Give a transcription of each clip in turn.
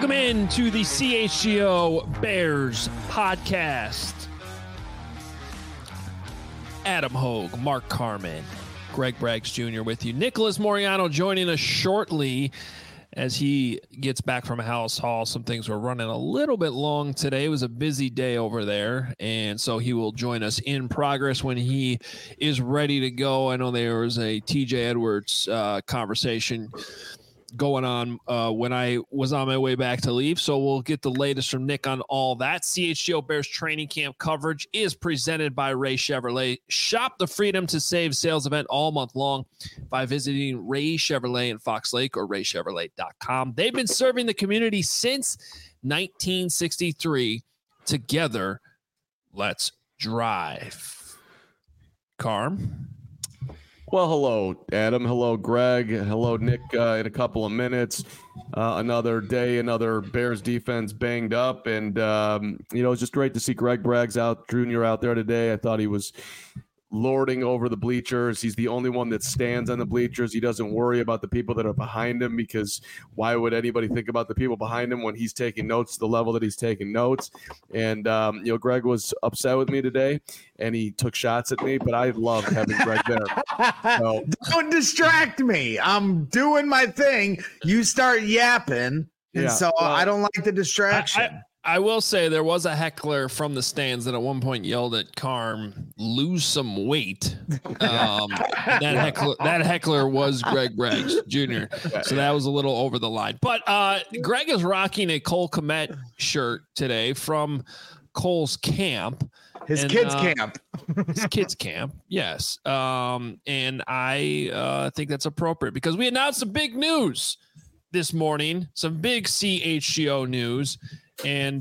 Welcome in to the CHGO Bears podcast. Adam Hogue, Mark Carman, Greg Braggs Jr. with you. Nicholas Moriano joining us shortly as he gets back from House Hall. Some things were running a little bit long today. It was a busy day over there, and so he will join us in progress when he is ready to go. I know there was a TJ Edwards conversation going on when I was on my way back to leave. So we'll get the latest from Nick on all that. CHGO Bears training camp coverage is presented by Ray Chevrolet. Shop the freedom to save sales event all month long by visiting Ray Chevrolet in Fox Lake or raychevrolet.com. They've been serving the community since 1963. Together, let's drive. Carm? Well, hello, Adam. Hello, Greg. Hello, Nick. In a couple of minutes, another day, another Bears defense banged up. And, it's just great to see Greg Braggs Jr. out there today. I thought he was lording over the bleachers. He's the only one that stands on the bleachers. He doesn't worry about the people that are behind him, because why would anybody think about the people behind him when he's taking notes to the level that he's taking notes? And, Greg was upset with me today, and he took shots at me, but I loved having Greg there. So, don't distract me. I'm doing my thing. You start yapping, and I don't like the distraction. I will say there was a heckler from the stands that at one point yelled at Carm, "Lose some weight." That heckler was Greg Braggs Jr. So that was a little over the line. But Greg is rocking a Cole Kmet shirt today from Cole's camp. His kids' camp. His kids' camp, yes. And I think that's appropriate because we announced some big news this morning, some big CHGO news. And,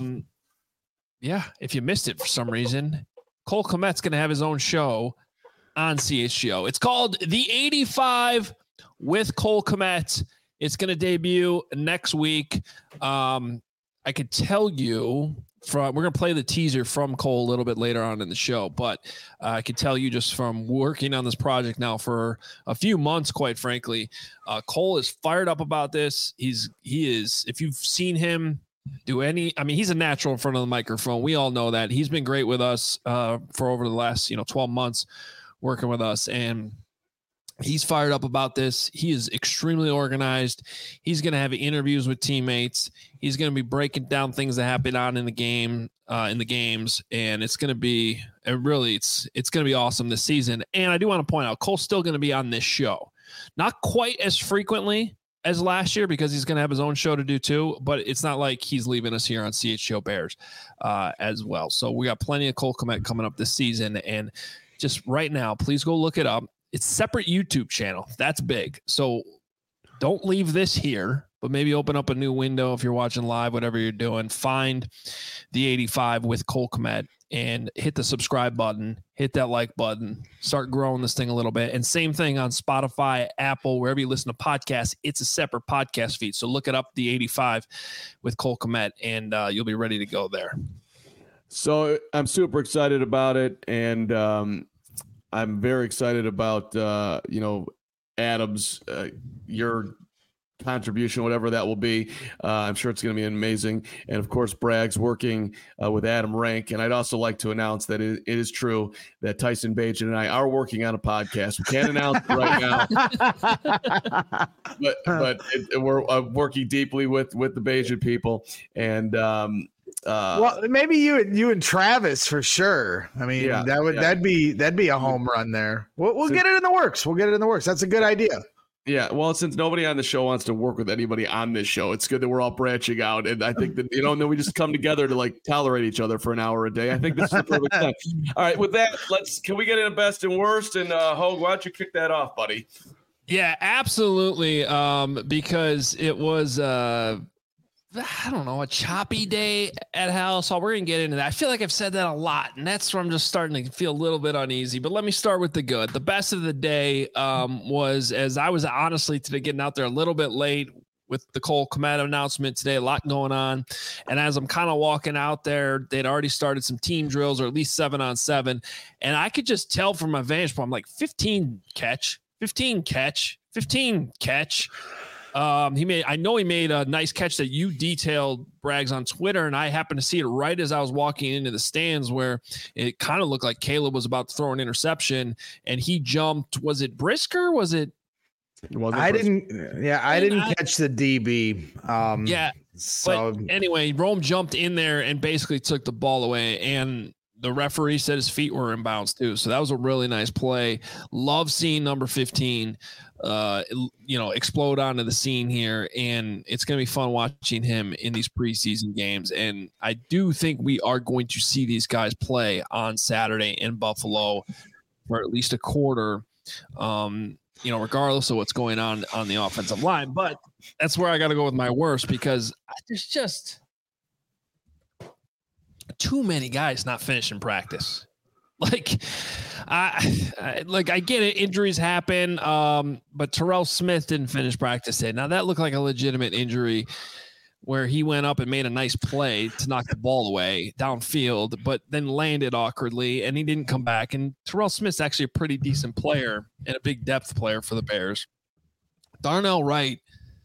if you missed it for some reason, Cole Kmet's going to have his own show on CHGO. It's called The 85 with Cole Kmet. It's going to debut next week. I could tell you we're going to play the teaser from Cole a little bit later on in the show, but I could tell you just from working on this project now for a few months, quite frankly, Cole is fired up about this. He is, if you've seen him he's a natural in front of the microphone. We all know that. He's been great with us for over the last 12 months working with us, and he's fired up about this. He is extremely organized. He's going to have interviews with teammates. He's going to be breaking down things that happen on in the game, in the games, and it's going to be it's going to be awesome this season. And I do want to point out, Cole's still going to be on this show, not quite as frequently as last year because he's going to have his own show to do too, but it's not like he's leaving us here on CHGO Bears as well. So we got plenty of Cole Kmet coming up this season, and just right now, please go look it up. It's a separate YouTube channel. That's big. So don't leave this here, but maybe open up a new window if you're watching live, whatever you're doing. Find the 85 with Cole Kmet and hit the subscribe button, hit that like button, start growing this thing a little bit. And same thing on Spotify, Apple, wherever you listen to podcasts, it's a separate podcast feed. So look it up, the 85 with Cole Kmet, and you'll be ready to go there. So I'm super excited about it. And I'm very excited about, Adam's, your contribution, whatever that will be. I'm sure it's going to be amazing. And of course, Bragg's working with Adam Rank. And I'd also like to announce that it is true that Tyson Bagent and I are working on a podcast. We can't announce it right now, but we're working deeply with the Bagent people. And well, maybe you and Travis for sure. I mean, that'd be a home run there. We'll get it in the works. That's a good idea. Yeah, well, since nobody on the show wants to work with anybody on this show, it's good that we're all branching out. And I think that, and then we just come together to tolerate each other for an hour a day. I think this is the perfect time. All right, with that, can we get into best and worst? And Hogue, why don't you kick that off, buddy? Yeah, absolutely. Because it was, I don't know, a choppy day at House Hall. We're going to get into that. I feel like I've said that a lot, and that's where I'm just starting to feel a little bit uneasy. But let me start with the good. The best of the day was, as I was honestly today getting out there a little bit late with the Cole Kmet announcement today, a lot going on. And as I'm kind of walking out there, they'd already started some team drills, or at least 7-on-7. And I could just tell from my vantage point, I'm like, 15 catch. I know he made a nice catch that you detailed, Braggs, on Twitter, and I happened to see it right as I was walking into the stands where it kind of looked like Caleb was about to throw an interception, and he jumped. Was it Brisker? Was it? I didn't catch the DB. So but anyway, Rome jumped in there and basically took the ball away, and the referee said his feet were in bounds too. So that was a really nice play. Love seeing number 15, explode onto the scene here. And it's going to be fun watching him in these preseason games. And I do think we are going to see these guys play on Saturday in Buffalo for at least a quarter, regardless of what's going on the offensive line. But that's where I got to go with my worst, because there's just too many guys not finishing practice. Like, I get it. Injuries happen. But Terrell Smith didn't finish practice today. Now that looked like a legitimate injury where he went up and made a nice play to knock the ball away downfield, but then landed awkwardly and he didn't come back. And Terrell Smith's actually a pretty decent player and a big depth player for the Bears. Darnell Wright,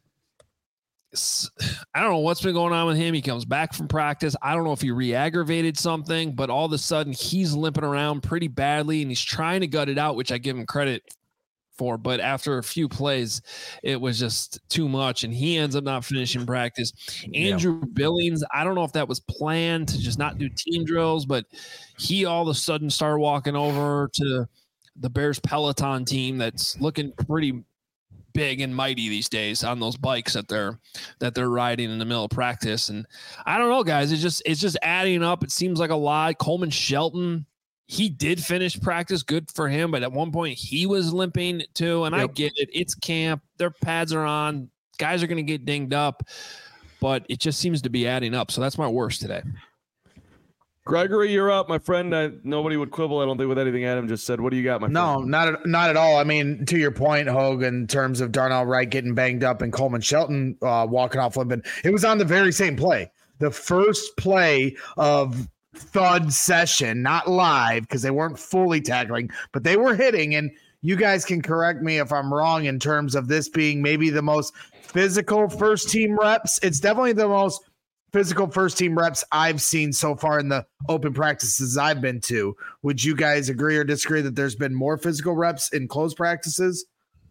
I don't know what's been going on with him. He comes back from practice. I don't know if he re-aggravated something, but all of a sudden he's limping around pretty badly and he's trying to gut it out, which I give him credit for. But after a few plays, it was just too much and he ends up not finishing practice. Andrew Billings, I don't know if that was planned to just not do team drills, but he all of a sudden started walking over to the Bears Peloton team that's looking pretty big and mighty these days on those bikes that they're riding in the middle of practice. And I don't know, guys, it's just adding up. It seems like a lot. Coleman Shelton, he did finish practice, good for him, but at one point he was limping too. And I get it. It's camp. Their pads are on. Guys are going to get dinged up, but it just seems to be adding up. So that's my worst today. Gregory, you're up, my friend. Nobody would quibble, I don't think, with anything Adam just said. What do you got, my friend? No, not at all. I mean, to your point, Hogue, in terms of Darnell Wright getting banged up and Coleman Shelton walking off limping, it was on the very same play. The first play of thud session, not live because they weren't fully tackling, but they were hitting. And you guys can correct me if I'm wrong in terms of this being maybe the most physical first team reps. It's definitely the most physical first team reps I've seen so far in the open practices I've been to. Would you guys agree or disagree that there's been more physical reps in closed practices?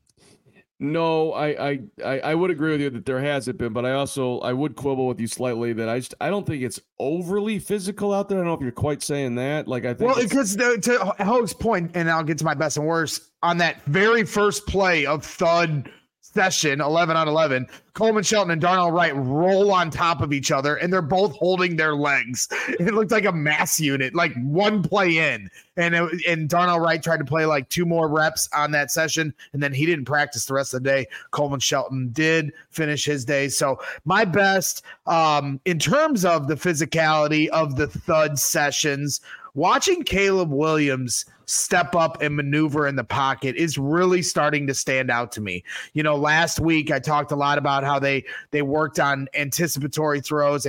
No, I would agree with you that there hasn't been, but I would quibble with you slightly that I don't think it's overly physical out there. I don't know if you're quite saying that. Like, I think because to Hogue's point, and I'll get to my best and worst, on that very first play of thud session, 11 on 11, Coleman Shelton and Darnell Wright roll on top of each other, and they're both holding their legs. It looked like a mass unit, like one play in. And Darnell Wright tried to play like 2 more reps on that session, and then he didn't practice the rest of the day. Coleman Shelton did finish his day. So my best, in terms of the physicality of the thud sessions, watching Caleb Williams step up and maneuver in the pocket is really starting to stand out to me. Last week I talked a lot about how they worked on anticipation throws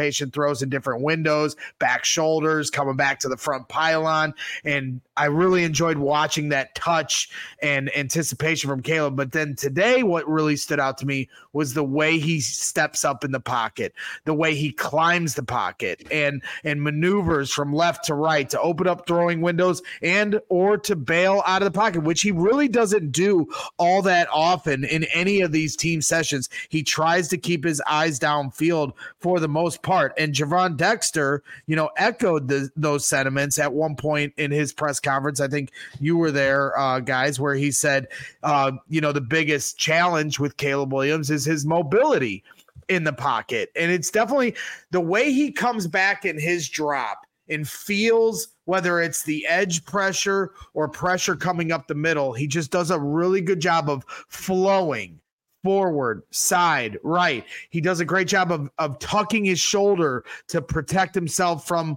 in different windows, back shoulders, coming back to the front pylon. And I really enjoyed watching that touch and anticipation from Caleb. But then today, what really stood out to me was the way he steps up in the pocket, the way he climbs the pocket and maneuvers from left to right to open up throwing windows or to bail out of the pocket, which he really doesn't do all that often in any of these team sessions. He tries to keep his eyes downfield for the most part. And Javon Dexter, echoed those sentiments at one point in his press conference. I think you were there, guys, where he said, the biggest challenge with Caleb Williams is his mobility in the pocket. And it's definitely the way he comes back in his drop and feels, whether it's the edge pressure or pressure coming up the middle, he just does a really good job of flowing forward, side, right. He does a great job of tucking his shoulder to protect himself from,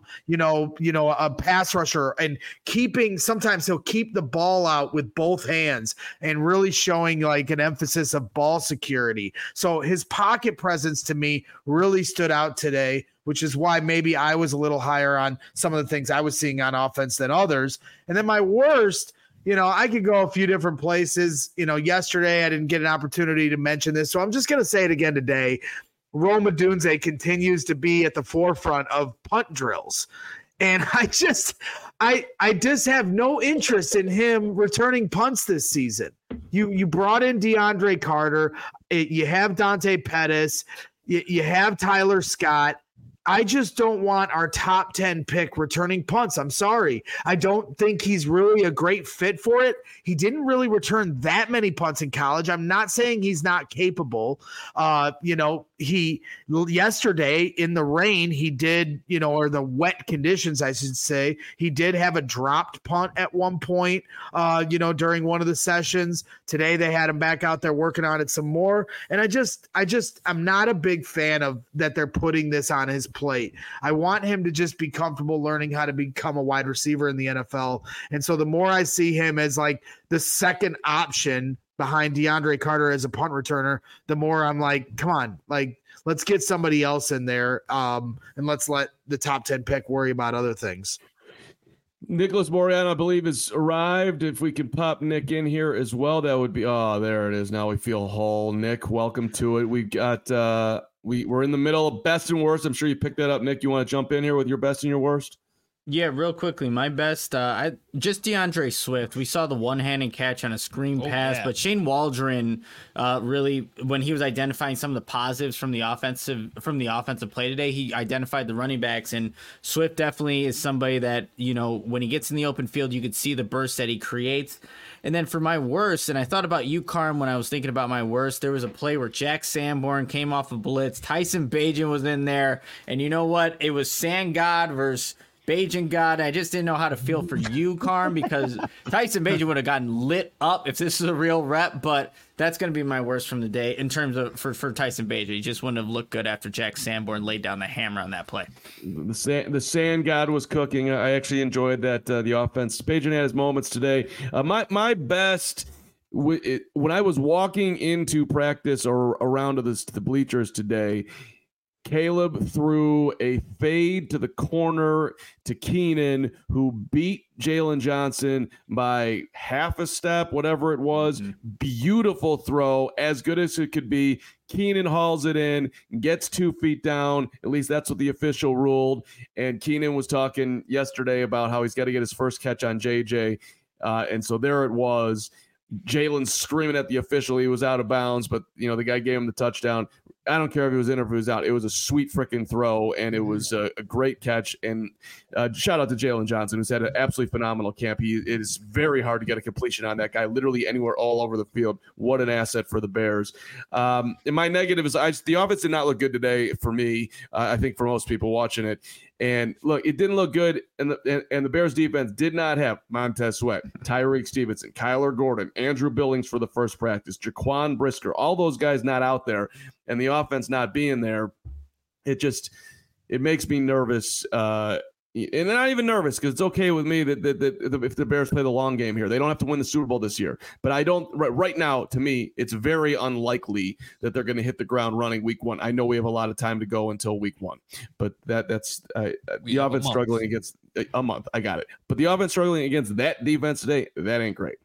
a pass rusher, and sometimes he'll keep the ball out with both hands and really showing like an emphasis of ball security. So his pocket presence to me really stood out today, which is why maybe I was a little higher on some of the things I was seeing on offense than others. And then my worst, I could go a few different places. Yesterday I didn't get an opportunity to mention this, so I'm just going to say it again today. Rome Odunze continues to be at the forefront of punt drills. And I just have no interest in him returning punts this season. You brought in DeAndre Carter. You have Dante Pettis. You have Tyler Scott. I just don't want our top 10 pick returning punts. I'm sorry. I don't think he's really a great fit for it. He didn't really return that many punts in college. I'm not saying he's not capable. He yesterday in the rain, he did, or the wet conditions, I should say, he did have a dropped punt at one point, during one of the sessions. Today they had him back out there working on it some more. And I'm not a big fan of that they're putting this on his plate. I want him to just be comfortable learning how to become a wide receiver in the NFL. And so the more I see him as like the second option behind DeAndre Carter as a punt returner, the more I'm like, come on, like let's get somebody else in there. And let's let the top 10 pick worry about other things. Nicholas Moriano, I believe, has arrived. If we can pop Nick in here as well, that would be, there it is. Now we feel whole. Nick, welcome to it. We've got, we're in the middle of best and worst. I'm sure you picked that up, Nick. You want to jump in here with your best and your worst? Yeah, real quickly. My best, just DeAndre Swift. We saw the one-handed catch on a screen pass, but Shane Waldron really, when he was identifying some of the positives from the offensive play today, he identified the running backs, and Swift definitely is somebody that, when he gets in the open field, you could see the burst that he creates. And then for my worst, and I thought about you, Carm, when I was thinking about my worst, there was a play where Jack Sanborn came off a blitz. Tyson Bagent was in there, and you know what? It was Sangod versus Bagent God. I just didn't know how to feel for you, Carm, because Tyson Bagent would have gotten lit up if this is a real rep, but that's going to be my worst from the day in terms of for Tyson Bagent. He just wouldn't have looked good after Jack Sanborn laid down the hammer on that play. The sand god was cooking. I actually enjoyed that, the offense. Bagent had his moments today. My best, when I was walking into practice or around to the bleachers today, Caleb threw a fade to the corner to Keenan, who beat Jalen Johnson by half a step, whatever it was. Beautiful throw, as good as it could be. Keenan hauls it in, gets 2 feet down. At least that's what the official ruled. And Keenan was talking yesterday about how he's got to get his first catch on JJ. And so there it was. Jalen screaming at the official. He was out of bounds, but the guy gave him the touchdown. I don't care if he was in or if he was out. It was a sweet freaking throw, and it was a great catch. And shout out to Jalen Johnson, who's had an absolutely phenomenal camp. It is very hard to get a completion on that guy, literally anywhere all over the field. What an asset for the Bears. And my negative is the offense did not look good today for me. I think for most people watching it. And look, it didn't look good, and the Bears defense did not have Montez Sweat, Tyreek Stevenson, Kyler Gordon, Andrew Billings for the first practice, Jaquan Brisker, all those guys not out there, and the offense not being there. It makes me nervous. And not even nervous, because it's okay with me that if the Bears play the long game here, they don't have to win the Super Bowl this year. But I don't right now. To me, it's very unlikely that they're going to hit the ground running week 1. I know we have a lot of time to go until week 1, but that's the offense struggling against a month. I got it, but the offense struggling against that defense today, that ain't great.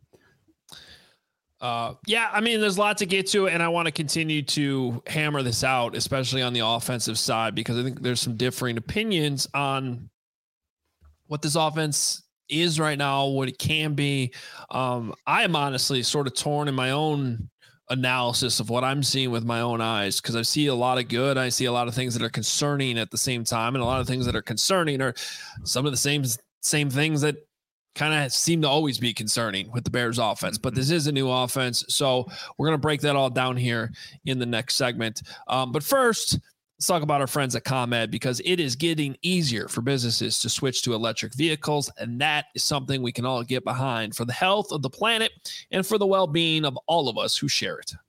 There's a lot to get to, and I want to continue to hammer this out, especially on the offensive side, because I think there's some differing opinions on what this offense is right now, what it can be. I am honestly sort of torn in my own analysis of what I'm seeing with my own eyes, because I see a lot of good. I see a lot of things that are concerning at the same time, and a lot of things that are concerning are some of the same things that kind of seem to always be concerning with the Bears offense. But this is a new offense, so we're going to break that all down here in the next segment. But first, let's talk about our friends at ComEd, because it is getting easier for businesses to switch to electric vehicles, and that is something we can all get behind for the health of the planet and for the well-being of all of us who share it.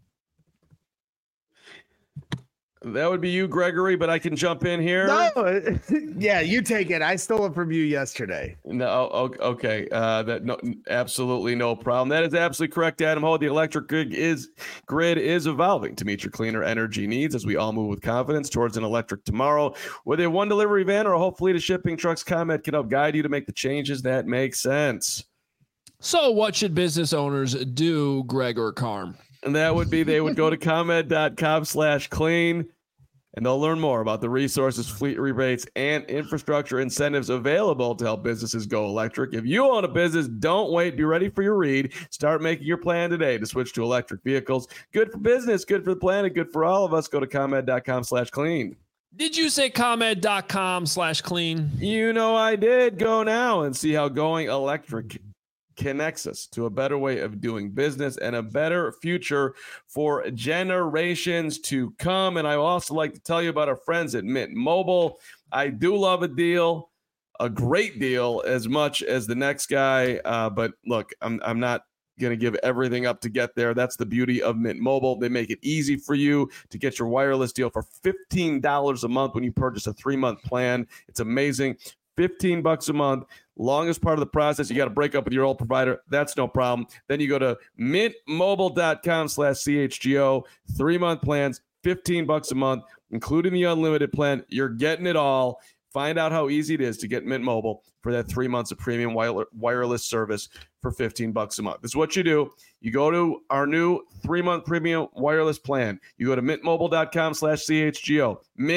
That would be you, Gregory, but I can jump in here. No, yeah, you take it. I stole it from you yesterday. No, okay. Absolutely no problem. That is absolutely correct, Adam Ho. The electric grid is evolving to meet your cleaner energy needs as we all move with confidence towards an electric tomorrow. Whether a one delivery van or a whole fleet of shipping trucks, ComEd can help guide you to make the changes that make sense. So what should business owners do, Greg or Carm? And that would be they would go to ComEd.com/clean, and they'll learn more about the resources, fleet rebates, and infrastructure incentives available to help businesses go electric. If you own a business, don't wait. Be ready for your read. Start making your plan today to switch to electric vehicles. Good for business, good for the planet, good for all of us. Go to ComEd.com/clean. Did you say ComEd.com/clean? You know I did. Go now and see how going electric connects us to a better way of doing business and a better future for generations to come. And I also like to tell you about our friends at Mint Mobile. I do love a deal, a great deal, as much as the next guy. But look, I'm not going to give everything up to get there. That's the beauty of Mint Mobile. They make it easy for you to get your wireless deal for $15 a month when you purchase a 3-month plan. It's amazing. $15 a month. Longest part of the process, you got to break up with your old provider. That's no problem. Then you go to mintmobile.com/CHGO. 3-month plans, $15 a month, including the unlimited plan. You're getting it all. Find out how easy it is to get Mint Mobile for that 3 months of premium wireless service for $15 a month. This is what you do. You go to our new 3-month premium wireless plan. You go to mintmobile.com/CHGO.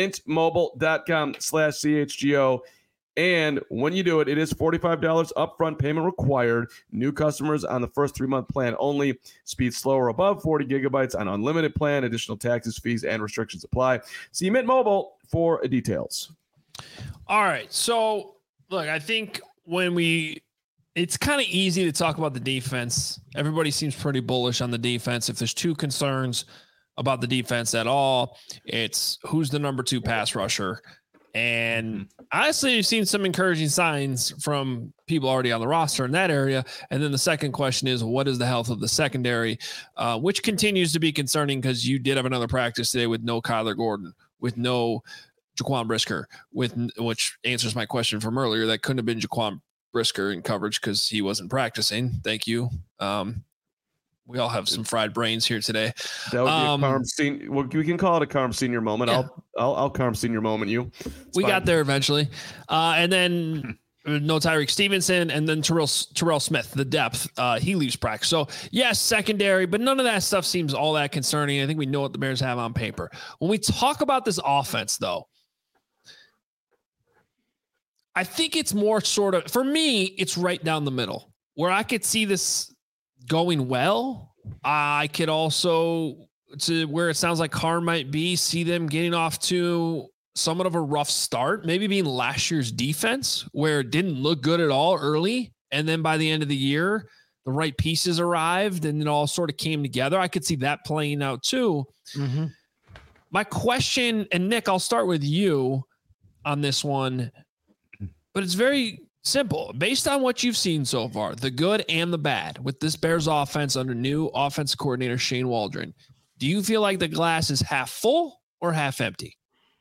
mintmobile.com/CHGO. And when you do it, it is $45 upfront payment required. New customers on the first 3-month plan only. Speed slower above 40 gigabytes on unlimited plan. Additional taxes, fees, and restrictions apply. See Mint Mobile for details. All right. So, look, I think it's kind of easy to talk about the defense. Everybody seems pretty bullish on the defense. If there's two concerns about the defense at all, it's who's the number 2 pass rusher. And honestly, you've seen some encouraging signs from people already on the roster in that area. And then the second question is, what is the health of the secondary, which continues to be concerning because you did have another practice today with no Kyler Gordon, with no Jaquan Brisker, which answers my question from earlier. That couldn't have been Jaquan Brisker in coverage because he wasn't practicing. Thank you. We all have some fried brains here today. That would be a Carm Senior. Well, we can call it a Carm Senior moment. Yeah. I'll Carm Senior moment you. We got there eventually. And then no Tyreek Stevenson, and then Terrell Smith, the depth. He leaves practice. So, yes, secondary, but none of that stuff seems all that concerning. I think we know what the Bears have on paper. When we talk about this offense, though, I think it's more sort of, for me, it's right down the middle where I could see this going well. I could also, to where it sounds like Carr might be, see them getting off to somewhat of a rough start, maybe being last year's defense where it didn't look good at all early. And then by the end of the year, the right pieces arrived and it all sort of came together. I could see that playing out too. Mm-hmm. My question, and Nick, I'll start with you on this one, but it's very simple. Based on what you've seen so far, the good and the bad with this Bears offense under new offensive coordinator Shane Waldron, do you feel like the glass is half full or half empty?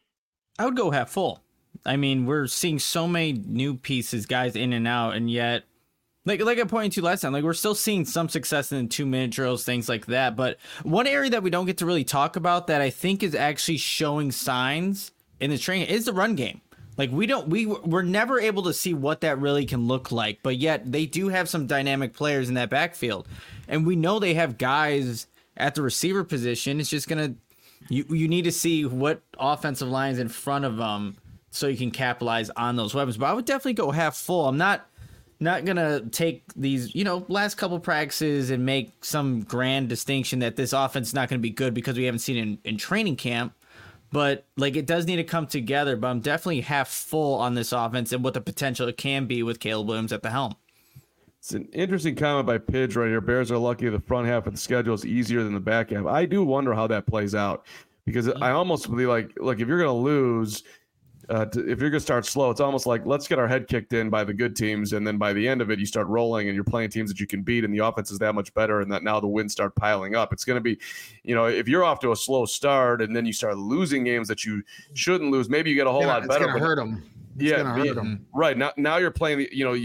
I would go half full. I mean, we're seeing so many new pieces, guys in and out, and yet, like I pointed to last time, like we're still seeing some success in 2-minute drills, things like that. But one area that we don't get to really talk about that I think is actually showing signs in the training is the run game. Like we're never able to see what that really can look like, but yet they do have some dynamic players in that backfield, and we know they have guys at the receiver position. It's just you need to see what offensive line's in front of them so you can capitalize on those weapons. But I would definitely go half full. I'm not gonna take these last couple practices and make some grand distinction that this offense is not going to be good because we haven't seen it in training camp. But like it does need to come together. But I'm definitely half full on this offense and what the potential it can be with Caleb Williams at the helm. It's an interesting comment by Pidge right here. Bears are lucky the front half of the schedule is easier than the back half. I do wonder how that plays out because I almost believe like, look, if you're going to lose, if you're going to start slow, it's almost like let's get our head kicked in by the good teams, and then by the end of it, you start rolling and you're playing teams that you can beat, and the offense is that much better, and that now the wins start piling up. It's going to be, if you're off to a slow start and then you start losing games that you shouldn't lose, maybe you get a whole lot better. It's going to hurt them. Hurt them. Right now you're playing,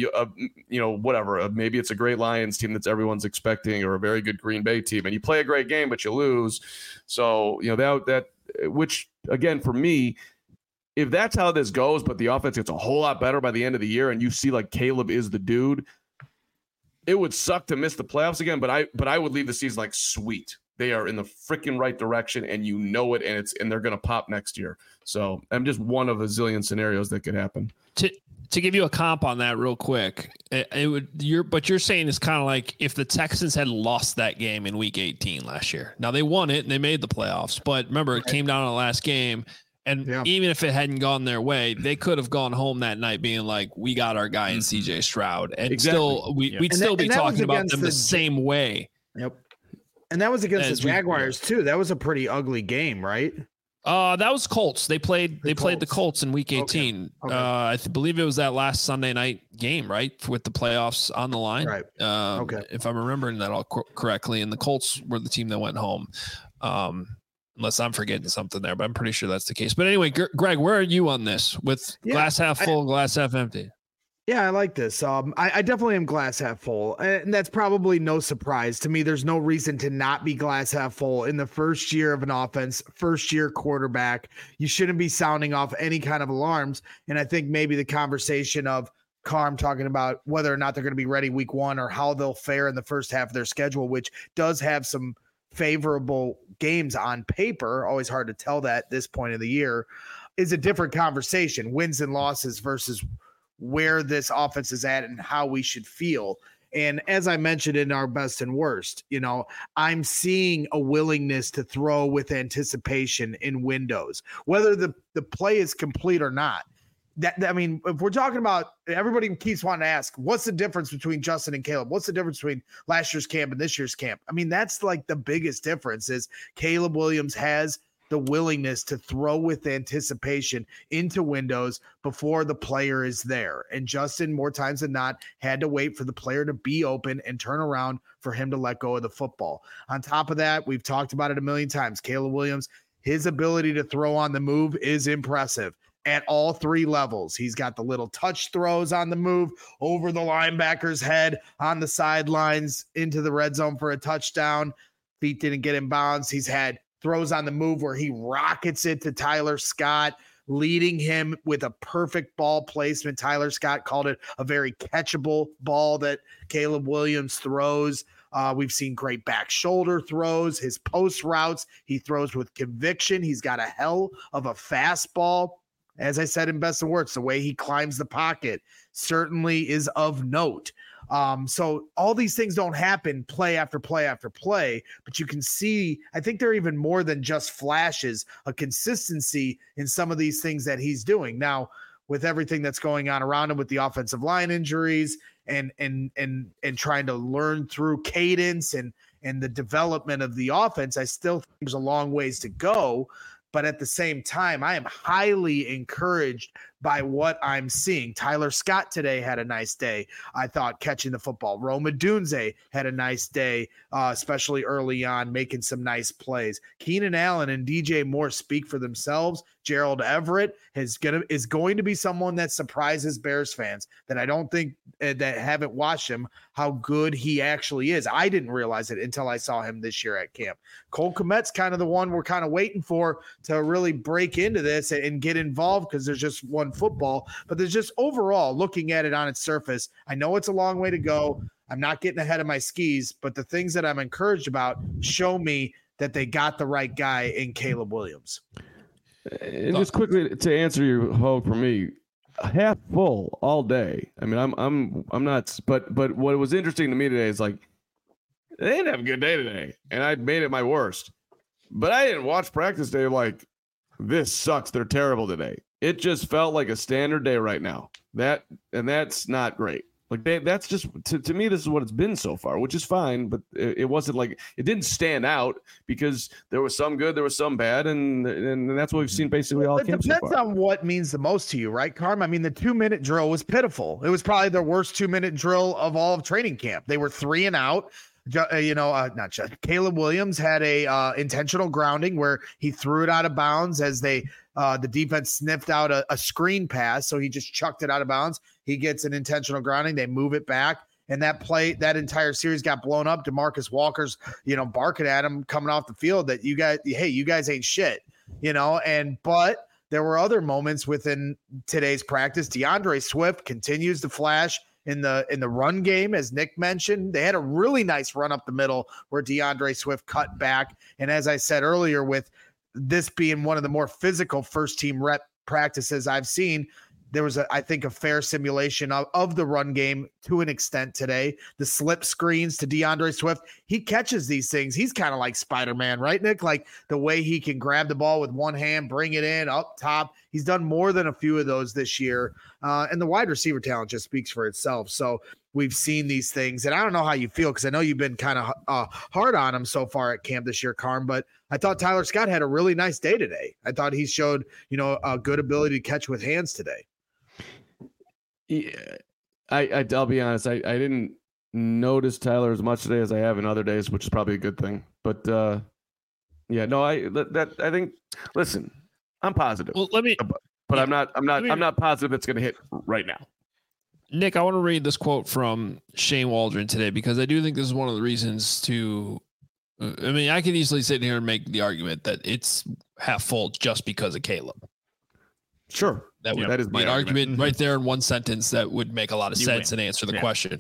whatever. Maybe it's a great Lions team that's everyone's expecting, or a very good Green Bay team, and you play a great game but you lose. So that which again for me, if that's how this goes, but the offense gets a whole lot better by the end of the year, and you see like Caleb is the dude, it would suck to miss the playoffs again, but I would leave the season like sweet. They are in the freaking right direction, and you know it, and they're going to pop next year. So I'm just one of a zillion scenarios that could happen. To give you a comp on that real quick, but you're saying it's kind of like if the Texans had lost that game in Week 18 last year. Now they won it and they made the playoffs, but remember it came down to the last game, and even if it hadn't gone their way, they could have gone home that night being like, "We got our guy in C.J. Stroud," and still we'd still be talking about them the same way. Yep. And that was against the Jaguars too. That was a pretty ugly game, right? That was Colts. They played the Colts in Week 18. Okay. I believe it was that last Sunday night game, right, with the playoffs on the line. Right. If I'm remembering that all correctly, and the Colts were the team that went home. Unless I'm forgetting something there, but I'm pretty sure that's the case. But anyway, Greg, where are you on this with glass half full, glass half empty? Yeah, I like this. I definitely am glass half full, and that's probably no surprise to me. There's no reason to not be glass half full in the first year of an offense, first year quarterback. You shouldn't be sounding off any kind of alarms. And I think maybe the conversation of Carm talking about whether or not they're going to be ready week one or how they'll fare in the first half of their schedule, which does have some favorable games on paper, always hard to tell that at this point of the year, is a different conversation. Wins and losses versus where this offense is at and how we should feel. And as I mentioned in our best and worst, I'm seeing a willingness to throw with anticipation in windows, whether the play is complete or not. I mean, if we're talking about, everybody keeps wanting to ask, what's the difference between Justin and Caleb? What's the difference between last year's camp and this year's camp? I mean, that's like the biggest difference is Caleb Williams has the willingness to throw with anticipation into windows before the player is there. And Justin, more times than not, had to wait for the player to be open and turn around for him to let go of the football. On top of that, we've talked about it a million times. Caleb Williams, his ability to throw on the move is impressive at all three levels. He's got the little touch throws on the move over the linebacker's head on the sidelines into the red zone for a touchdown. Feet didn't get in bounds. He's had throws on the move where he rockets it to Tyler Scott, leading him with a perfect ball placement. Tyler Scott called it a very catchable ball that Caleb Williams throws. We've seen great back shoulder throws. His post routes, he throws with conviction. He's got a hell of a fastball. As I said in best and worst, the way he climbs the pocket certainly is of note. So all these things don't happen play after play after play, but you can see, I think they're even more than just flashes, a consistency in some of these things that he's doing. Now, with everything that's going on around him with the offensive line injuries and trying to learn through cadence and the development of the offense, I still think there's a long ways to go. But at the same time, I am highly encouraged by what I'm seeing. Tyler Scott today had a nice day, I thought, catching the football. Rome Odunze had a nice day, especially early on, making some nice plays. Keenan Allen and DJ Moore speak for themselves. Gerald Everett is going to be someone that surprises Bears fans that I don't think that haven't watched him, how good he actually is. I didn't realize it until I saw him this year at camp. Cole Kmet's kind of the one we're kind of waiting for to really break into this and get involved because there's just one football. But there's just overall, looking at it on its surface, I know it's a long way to go. I'm not getting ahead of my skis, but the things that I'm encouraged about show me that they got the right guy in Caleb Williams. And just quickly to answer your hope for me, half full all day. I mean, I'm not, but what was interesting to me today is like, they didn't have a good day today, and I made it my worst. But I didn't watch practice day like, this sucks. They're terrible today. It just felt like a standard day right now. That's not great. Like that's just to me, this is what it's been so far, which is fine. But it wasn't like it didn't stand out because there was some good, there was some bad, and that's what we've seen basically all camp so far. It depends on what means the most to you, right, Carm? I mean, the 2-minute drill was pitiful. It was probably their worst 2-minute drill of all of training camp. They were 3 and out. Not just Caleb Williams had a intentional grounding where he threw it out of bounds as the defense sniffed out a screen pass. So he just chucked it out of bounds. He gets an intentional grounding. They move it back. And that entire series got blown up. DeMarcus Walker's, barking at him coming off the field that you guys ain't shit, but there were other moments within today's practice. DeAndre Swift continues to flash in the run game, as Nick mentioned. They had a really nice run up the middle where DeAndre Swift cut back. And as I said earlier, with this being one of the more physical first team rep practices I've seen, there was I think a fair simulation of the run game to an extent today. The slip screens to DeAndre Swift, he catches these things. He's kind of like Spider-Man, right, Nick? Like the way he can grab the ball with one hand, bring it in up top. He's done more than a few of those this year. And the wide receiver talent just speaks for itself. So we've seen these things. And I don't know how you feel, because I know you've been kind of hard on him so far at camp this year, Carm, but I thought Tyler Scott had a really nice day today. I thought he showed, a good ability to catch with hands today. Yeah, I'll be honest. I didn't notice Tyler as much today as I have in other days, which is probably a good thing. But I think. Listen, I'm positive. Well, but I'm not positive it's going to hit right now. Nick, I want to read this quote from Shane Waldron today, because I do think this is one of the reasons to. I mean, I could easily sit here and make the argument that it's half full just because of Caleb. Sure. That is my argument right there in one sentence. That would make a lot of sense and answer the question.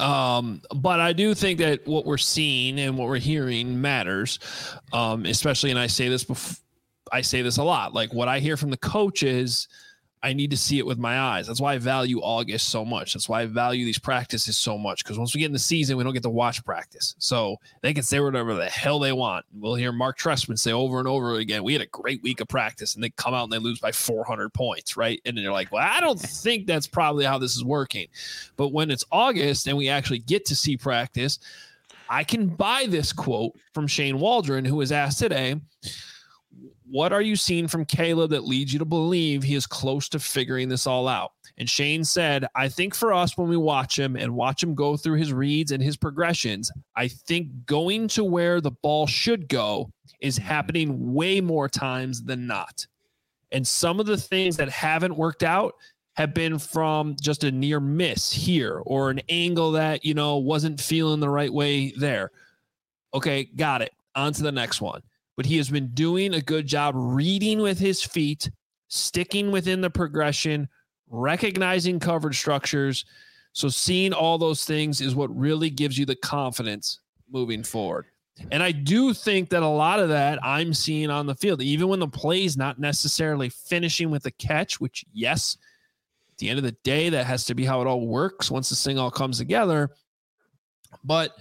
But I do think that what we're seeing and what we're hearing matters, especially, and I say this a lot, like what I hear from the coaches, I need to see it with my eyes. That's why I value August so much. That's why I value these practices so much, because once we get in the season, we don't get to watch practice. So they can say whatever the hell they want. We'll hear Mark Trestman say over and over again, we had a great week of practice, and they come out and they lose by 400 points, right? And then you're like, well, I don't think that's probably how this is working. But when it's August and we actually get to see practice, I can buy this quote from Shane Waldron, who was asked today, what are you seeing from Caleb that leads you to believe he is close to figuring this all out? And Shane said, I think for us, when we watch him go through his reads and his progressions, I think going to where the ball should go is happening way more times than not. And some of the things that haven't worked out have been from just a near miss here, or an angle that, wasn't feeling the right way there. Okay, got it. On to the next one. But he has been doing a good job reading with his feet, sticking within the progression, recognizing coverage structures. So seeing all those things is what really gives you the confidence moving forward. And I do think that a lot of that I'm seeing on the field, even when the play's not necessarily finishing with a catch, which, yes, at the end of the day, that has to be how it all works once this thing all comes together. But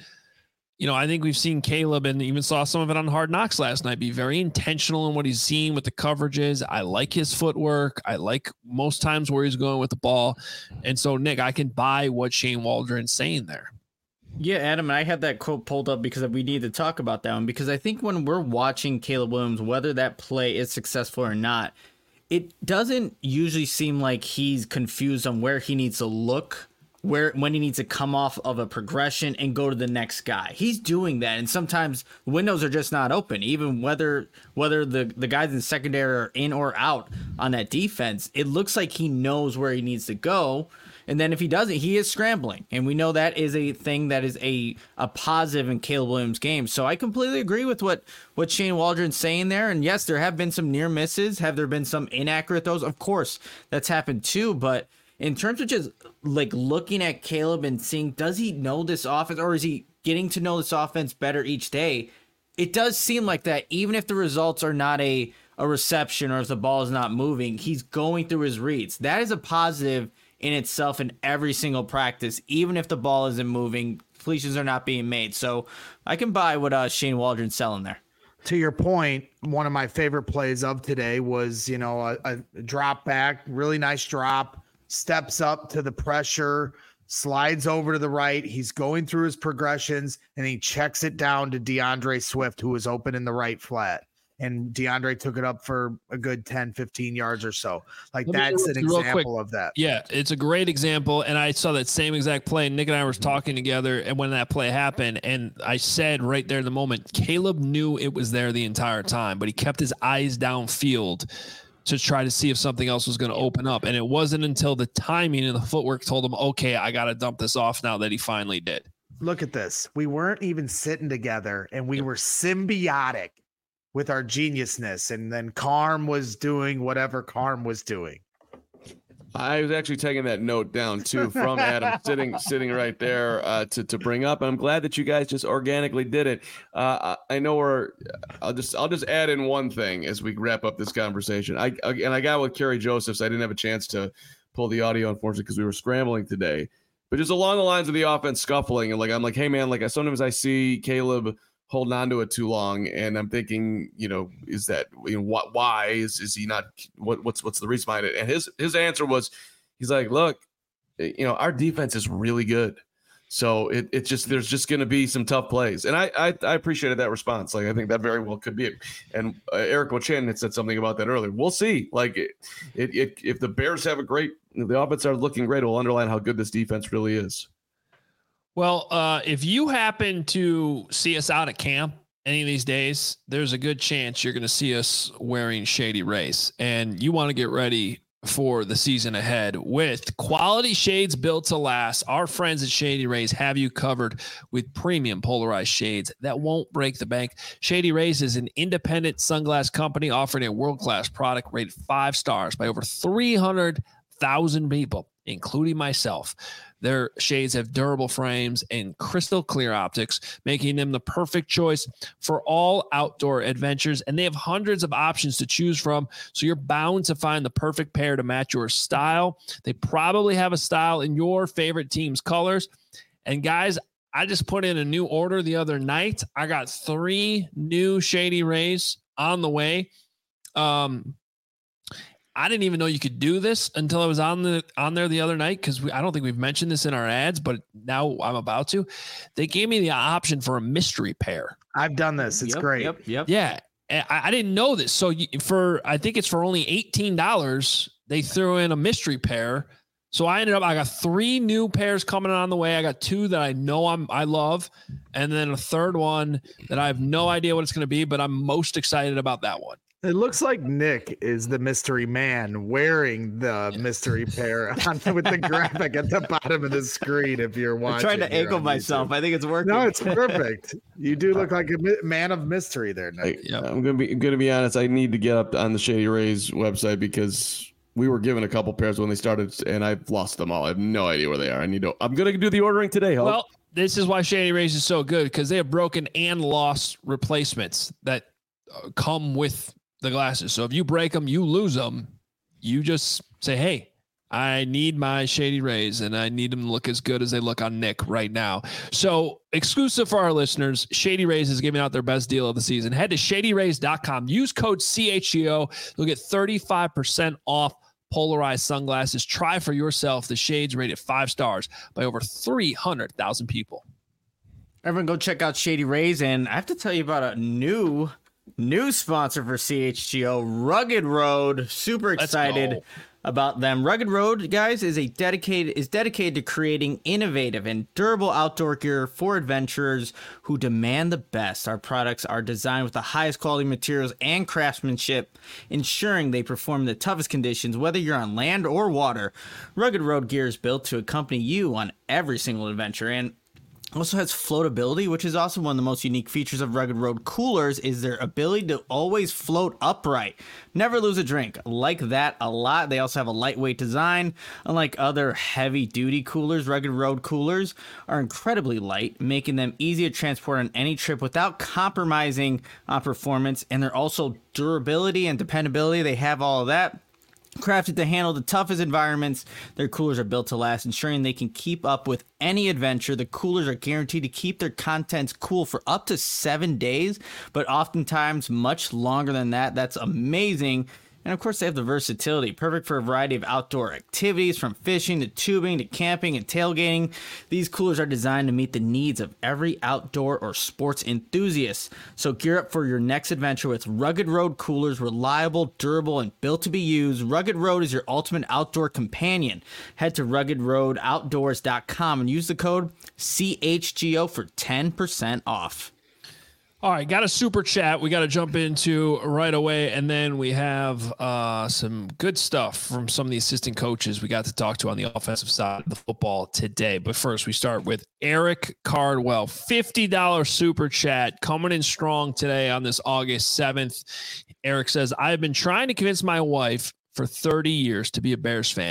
I think we've seen Caleb, and even saw some of it on Hard Knocks last night, be very intentional in what he's seeing with the coverages. I like his footwork. I like most times where he's going with the ball. And so, Nick, I can buy what Shane Waldron's saying there. Yeah, Adam, I had that quote pulled up because we need to talk about that one, because I think when we're watching Caleb Williams, whether that play is successful or not, it doesn't usually seem like he's confused on where he needs to look, when he needs to come off of a progression and go to the next guy. He's doing that, and sometimes windows are just not open. Even whether the guys in secondary are in or out on that defense, it looks like he knows where he needs to go. And then if he doesn't, he is scrambling. And we know that is a thing that is a positive in Caleb Williams' game. So I completely agree with what Shane Waldron's saying there. And yes, there have been some near misses. Have there been some inaccurate throws? Of course, that's happened too. But in terms of just like looking at Caleb and seeing, does he know this offense, or is he getting to know this offense better each day? It does seem like that, even if the results are not a reception, or if the ball is not moving, he's going through his reads. That is a positive in itself in every single practice, even if the ball isn't moving, completions are not being made. So I can buy what Shane Waldron's selling there. To your point, one of my favorite plays of today was, a drop back, really nice drop, steps up to the pressure, slides over to the right. He's going through his progressions, and he checks it down to DeAndre Swift, who was open in the right flat. And DeAndre took it up for a good 10, 15 yards or so. That's an example of that. Yeah, it's a great example. And I saw that same exact play. Nick and I were talking together, and when that play happened, and I said right there in the moment, Caleb knew it was there the entire time, but he kept his eyes downfield to try to see if something else was going to open up. And it wasn't until the timing and the footwork told him, okay, I got to dump this off now, that he finally did. Look at this. We weren't even sitting together, and we were symbiotic with our geniusness. And then Carm was doing whatever Carm was doing. I was actually taking that note down too from Adam, sitting right there to bring up. And I'm glad that you guys just organically did it. I know I'll just add in one thing as we wrap up this conversation. I got with Kerry Josephs. I didn't have a chance to pull the audio, unfortunately, because we were scrambling today. But just along the lines of the offense scuffling, and I'm like, hey man, like sometimes I see Caleb holding on to it too long, and I'm thinking, is that why is he not? What's the reason behind it? And his answer was, he's like, look, our defense is really good, so it's just there's just going to be some tough plays, and I appreciated that response. Like I think that very well could be it. And Eric Wachin had said something about that earlier. We'll see. Like if the Bears have the offense are looking great, it will underline how good this defense really is. Well, if you happen to see us out at camp any of these days, there's a good chance you're going to see us wearing Shady Rays, and you want to get ready for the season ahead with quality shades built to last. Our friends at Shady Rays have you covered with premium polarized shades that won't break the bank. Shady Rays is an independent sunglass company offering a world-class product rated 5 stars by over 300,000 people, including myself. Their shades have durable frames and crystal clear optics, making them the perfect choice for all outdoor adventures. And they have hundreds of options to choose from, so you're bound to find the perfect pair to match your style. They probably have a style in your favorite team's colors. And guys, I just put in a new order the other night. I got 3 new Shady Rays on the way. I didn't even know you could do this until I was on there the other night, because I don't think we've mentioned this in our ads, but now I'm about to. They gave me the option for a mystery pair. I've done this. It's great. Yep. Yeah. I didn't know this. So I think it's for only $18. They threw in a mystery pair. So I got 3 new pairs coming on the way. I got 2 that I know I love, and then a third one that I have no idea what it's going to be, but I'm most excited about that one. It looks like Nick is the mystery man wearing the mystery pair with the graphic at the bottom of the screen. If you're watching, I'm trying to angle myself. I think it's working. No, it's perfect. You do look like a man of mystery there, Nick. I'm gonna be honest. I need to get up on the Shady Rays website because we were given a couple pairs when they started, and I've lost them all. I have no idea where they are. I'm gonna do the ordering today. Hope. Well, this is why Shady Rays is so good, because they have broken and lost replacements that come with the glasses. So if you break them, you lose them, you just say, hey, I need my Shady Rays, and I need them to look as good as they look on Nick right now. So exclusive for our listeners, Shady Rays is giving out their best deal of the season. Head to shadyrays.com. Use code CHGO. You'll get 35% off polarized sunglasses. Try for yourself the shades rated 5 stars by over 300,000 people. Everyone go check out Shady Rays. And I have to tell you about a new sponsor for CHGO, Rugged Road. Super excited about them. Rugged Road, guys, is dedicated to creating innovative and durable outdoor gear for adventurers who demand the best. Our products are designed with the highest quality materials and craftsmanship, ensuring they perform in the toughest conditions, whether you're on land or water. Rugged Road gear is built to accompany you on every single adventure, and also has floatability, which is also one of the most unique features of Rugged Road coolers, is their ability to always float upright. Never lose a drink. Like that a lot. They also have a lightweight design. Unlike other heavy-duty coolers, Rugged Road coolers are incredibly light, making them easy to transport on any trip without compromising on performance. And they're also durability and dependability. They have all of that. Crafted to handle the toughest environments, their coolers are built to last, ensuring they can keep up with any adventure. The coolers are guaranteed to keep their contents cool for up to 7 days, but oftentimes much longer than that. That's amazing. And of course, they have the versatility, perfect for a variety of outdoor activities, from fishing to tubing to camping and tailgating. These coolers are designed to meet the needs of every outdoor or sports enthusiast. So gear up for your next adventure with Rugged Road coolers, reliable, durable, and built to be used. Rugged Road is your ultimate outdoor companion. Head to ruggedroadoutdoors.com and use the code CHGO for 10% off. All right, got a super chat we got to jump into right away, and then we have some good stuff from some of the assistant coaches we got to talk to on the offensive side of the football today. But first, we start with Eric Cardwell, $50 super chat coming in strong today on this August 7th. Eric says, I have been trying to convince my wife for 30 years to be a Bears fan.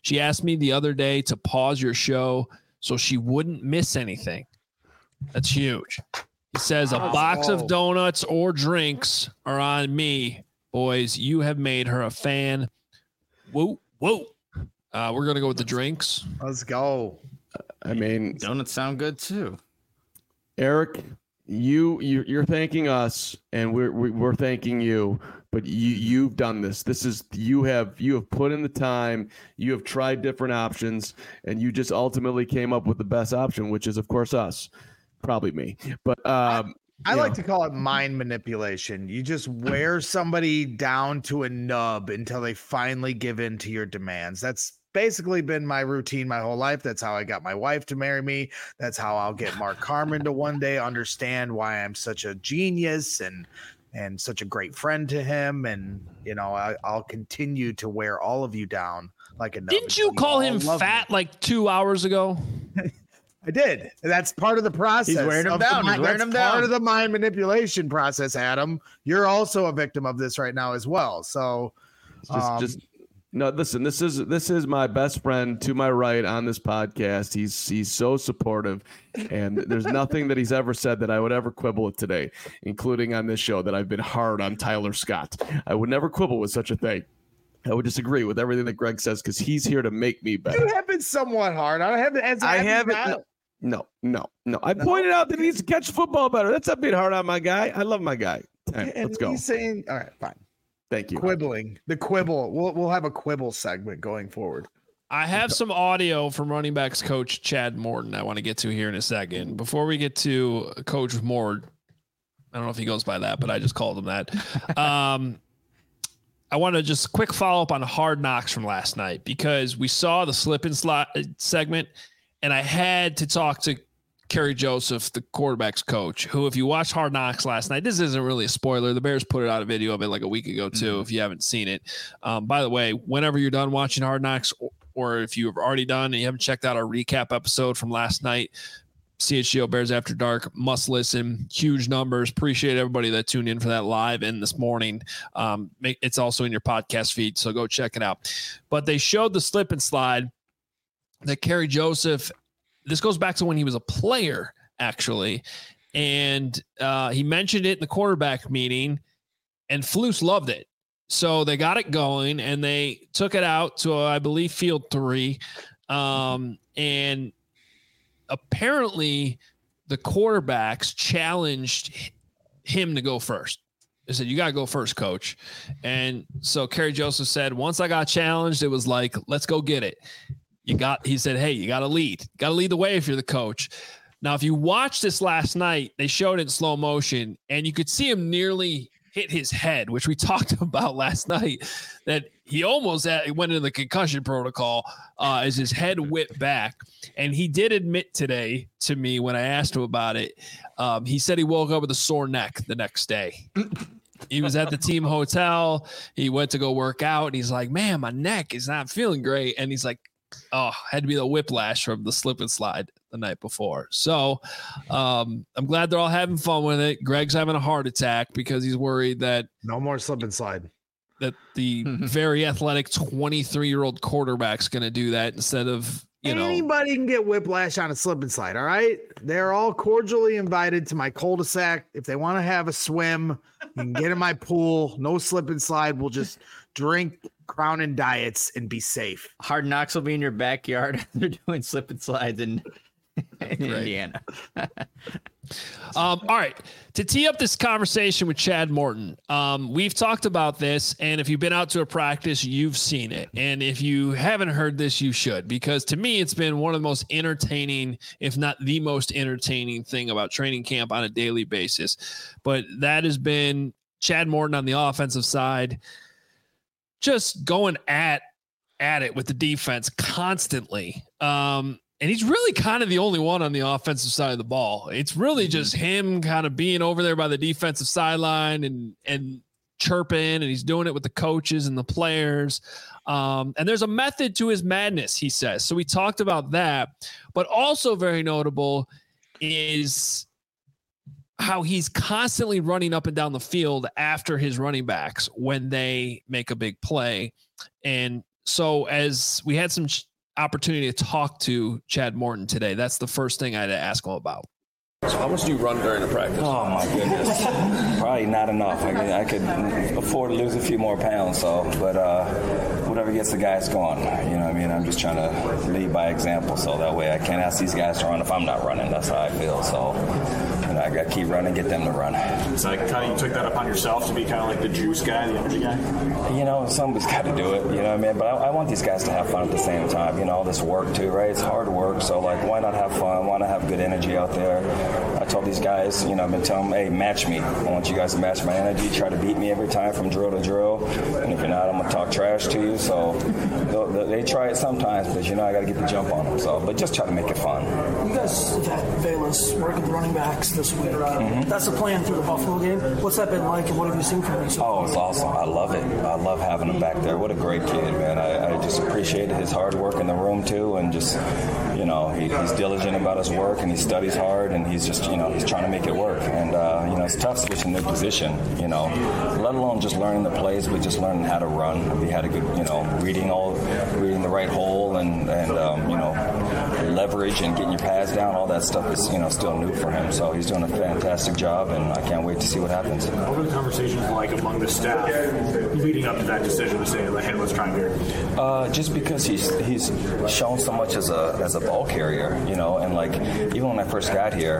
She asked me the other day to pause your show so she wouldn't miss anything. That's huge. He says a box of donuts or drinks are on me. Boys, you have made her a fan. Whoa. We're going to go with the drinks. Let's go. I mean, donuts sound good too. Eric, you're thanking us, and we're thanking you. But you've done this. You have put in the time. You have tried different options, and you just ultimately came up with the best option, which is, of course, us. Probably me. But I like to call it mind manipulation. You just wear somebody down to a nub until they finally give in to your demands. That's basically been my routine my whole life. That's how I got my wife to marry me. That's how I'll get Mark Carman to one day understand why I'm such a genius and such a great friend to him. And, I'll continue to wear all of you down like a nub. Didn't you call him fat like 2 hours ago? I did. That's part of the process. He's wearing him down. Part of the mind manipulation process, Adam. You're also a victim of this right now as well. So, no. Listen, this is my best friend to my right on this podcast. He's so supportive, and there's nothing that he's ever said that I would ever quibble with today, including on this show that I've been hard on Tyler Scott. I would never quibble with such a thing. I would disagree with everything that Greg says because he's here to make me better. You have been somewhat hard. I haven't. No. I pointed out that he needs to catch football better. That's not being hard on my guy. I love my guy. Right, let's go. He's saying, all right, fine. Thank you. Quibbling. The quibble. We'll have a quibble segment going forward. I have some audio from running backs coach Chad Morton I want to get to here in a second. Before we get to Coach Mord, I don't know if he goes by that, but I just called him that. I want to just quick follow up on Hard Knocks from last night because we saw the slip and slide segment. And I had to talk to Kerry Joseph, the quarterback's coach, who, if you watched Hard Knocks last night, this isn't really a spoiler. The Bears put out a video of it like a week ago, too, if you haven't seen it. By the way, whenever you're done watching Hard Knocks, or if you've already done and you haven't checked out our recap episode from last night, CHGO Bears After Dark, must listen. Huge numbers. Appreciate everybody that tuned in for that live and this morning. It's also in your podcast feed, so go check it out. But they showed the slip and slide that Kerry Joseph, this goes back to when he was a player, actually. And he mentioned it in the quarterback meeting, and Flus loved it. So they got it going, and they took it out to, I believe, field 3. And apparently the quarterbacks challenged him to go first. They said, you got to go first, coach. And so Kerry Joseph said, once I got challenged, it was like, let's go get it. He said, hey, you got to lead. Got to lead the way if you're the coach. Now, if you watched this last night, they showed it in slow motion, and you could see him nearly hit his head, which we talked about last night, that he almost went into the concussion protocol as his head whipped back. And he did admit today to me when I asked him about it, he said he woke up with a sore neck the next day. He was at the team hotel. He went to go work out, and he's like, man, my neck is not feeling great. And he's like, had to be the whiplash from the slip and slide the night before. So I'm glad they're all having fun with it. Greg's having a heart attack because he's worried that no more slip and slide, that the very athletic 23-year-old quarterback's going to do that instead of, anybody can get whiplash on a slip and slide. All right. They're all cordially invited to my cul-de-sac. If they want to have a swim, you can get in my pool. No slip and slide. We'll just drink Crown and diets and be safe. Hard Knocks will be in your backyard. They're doing slip and slides in Indiana. All right. To tee up this conversation with Chad Morton, we've talked about this, and if you've been out to a practice, you've seen it. And if you haven't heard this, you should, because to me, it's been one of the most entertaining, if not the most entertaining thing about training camp on a daily basis. But that has been Chad Morton on the offensive side, just going at it with the defense constantly. And he's really kind of the only one on the offensive side of the ball. It's really just him kind of being over there by the defensive sideline and chirping, and he's doing it with the coaches and the players. And there's a method to his madness, he says. So we talked about that, but also very notable is how he's constantly running up and down the field after his running backs when they make a big play. And So as we had some opportunity to talk to Chad Morton today, that's the first thing I had to ask him about. So how much do you run during a practice? Oh my goodness, probably not enough. I could afford to lose a few more pounds. So, but whatever gets the guys going, you know what I mean? I'm just trying to lead by example, so that way I can't ask these guys to run if I'm not running. That's how I feel. So, you know, I got to keep running, get them to run. It's like kind of you took that upon yourself to be kind of like the juice guy, the energy guy. You know, somebody's got to do it. You know what I mean? But I want these guys to have fun at the same time. You know, all this work too, right? It's hard work. So like, why not have fun? Why not have good energy out there? I told these guys, you know, I've been telling them, hey, match me. I want you guys to match my energy. Try to beat me every time from drill to drill. And if you're not, I'm going to talk trash to you. So they try it sometimes, but, you know, I got to get the jump on them. So, but just try to make it fun. You guys have had Velus work with the running backs this week. That's the plan through the Buffalo game. What's that been like, and what have you seen from him so far? Oh, it's awesome. I love it. I love having him back there. What a great kid, man. I just appreciate his hard work in the room, too, and just, you know, he's diligent about his work, and he studies hard, and he's just, you know, he's trying to make it work. And, you know, it's tough switching the position, you know, let alone just learning the plays, but just learning how to run. We had a good, you know, reading the right hole and you know, leverage and getting your pads down, all that stuff is, you know, still new for him. So he's doing a fantastic job, and I can't wait to see what happens. What are the conversations like among the staff leading up to that decision to say, like, hey, let's try here? Just because he's shown so much as a ball carrier, you know, and like even when I first got here,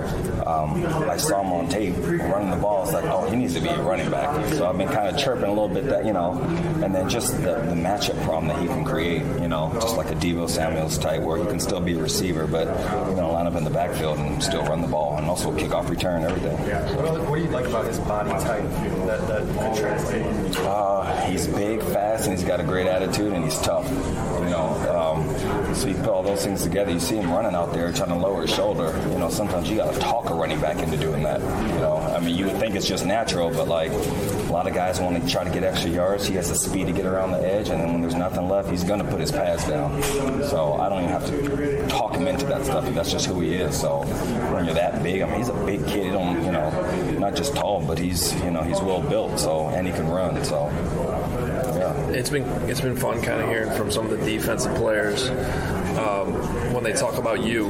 I saw him on tape running the ball. It's like, oh, he needs to be a running back. So I've been kind of chirping a little bit that, you know, and then just the matchup problem that he can create, you know, just like a Deebo Samuels type where he can still be a receiver, but, you know, line up in the backfield and still run the ball and also kick off return, everything. Yeah. So. What do you like about his body type that could translate? He's big, fast, and he's got a great attitude, and he's tough, you know. So you put all those things together, you see him running out there trying to lower his shoulder. You know, sometimes you got to talk a running back into doing that, you know. I mean, you would think it's just natural, but like a lot of guys want to try to get extra yards. He has the speed to get around the edge, and then when there's nothing left, he's going to put his pads down. So I don't even have to talk him into that stuff. That's just who he is. So when you're that big, I mean, he's a big kid. He don't, you know, not just tall, but he's, you know, he's well built. So, and he can run. So. Yeah. It's been fun kind of hearing from some of the defensive players when they talk about you.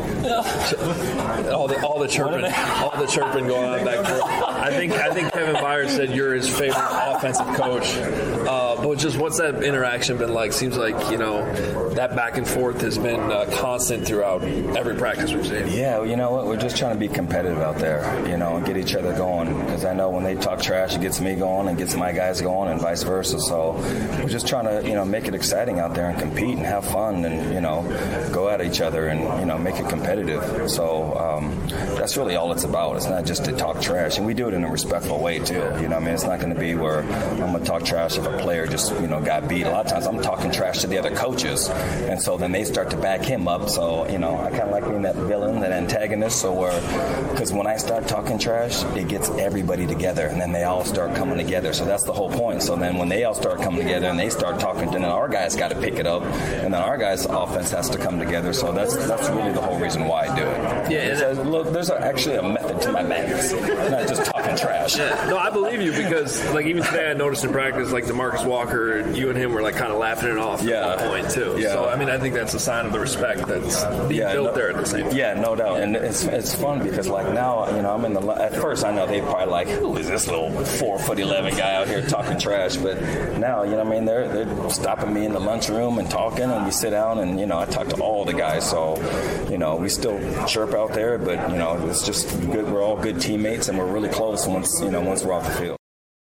all the chirping going on back there. I think Kevin Byard said you're his favorite offensive coach. But just what's that interaction been like? Seems like, you know, that back and forth has been constant throughout every practice we've seen. Yeah, you know what? We're just trying to be competitive out there, you know, and get each other going. Because I know when they talk trash, it gets me going and gets my guys going, and vice versa. So we're just trying to, you know, make it exciting out there and compete and have fun and, you know, go at each other and, you know, make it competitive. So that's really all it's about. It's not just to talk trash, and we do it in a respectful way too. You know, I mean, it's not going to be where I'm going to talk trash if a player just, you know, got beat. A lot of times I'm talking trash to the other coaches, and so then they start to back him up. So, you know, I kind of like being that villain, that antagonist. So because when I start talking trash, it gets everybody together, and then they all start coming together. So that's the whole point. So then when they all start coming together and they start talking, then our guys got to pick it up, and then our guys' offense has to come together. So that's really the whole reason why I do it. Yeah, so, look, there's actually a method to my madness, not just talking trash. Yeah. No, I believe you, because like even today I noticed in practice, like DeMarcus Walker, you and him were like kind of laughing it off at one point too. Yeah. So I mean, I think that's a sign of the respect that's being built there at the same time. Yeah, no doubt. And it's fun because like now, you know, I'm in the at first I know they probably like, who is this little 4'11" guy out here talking trash? But now, you know what I mean, they're stopping me in the lunchroom and talking, and we sit down and, you know, I talk to all the guys. So, you know, we still chirp out there, but, you know, it's just good. We're all good teammates, and we're really close once we're off the field.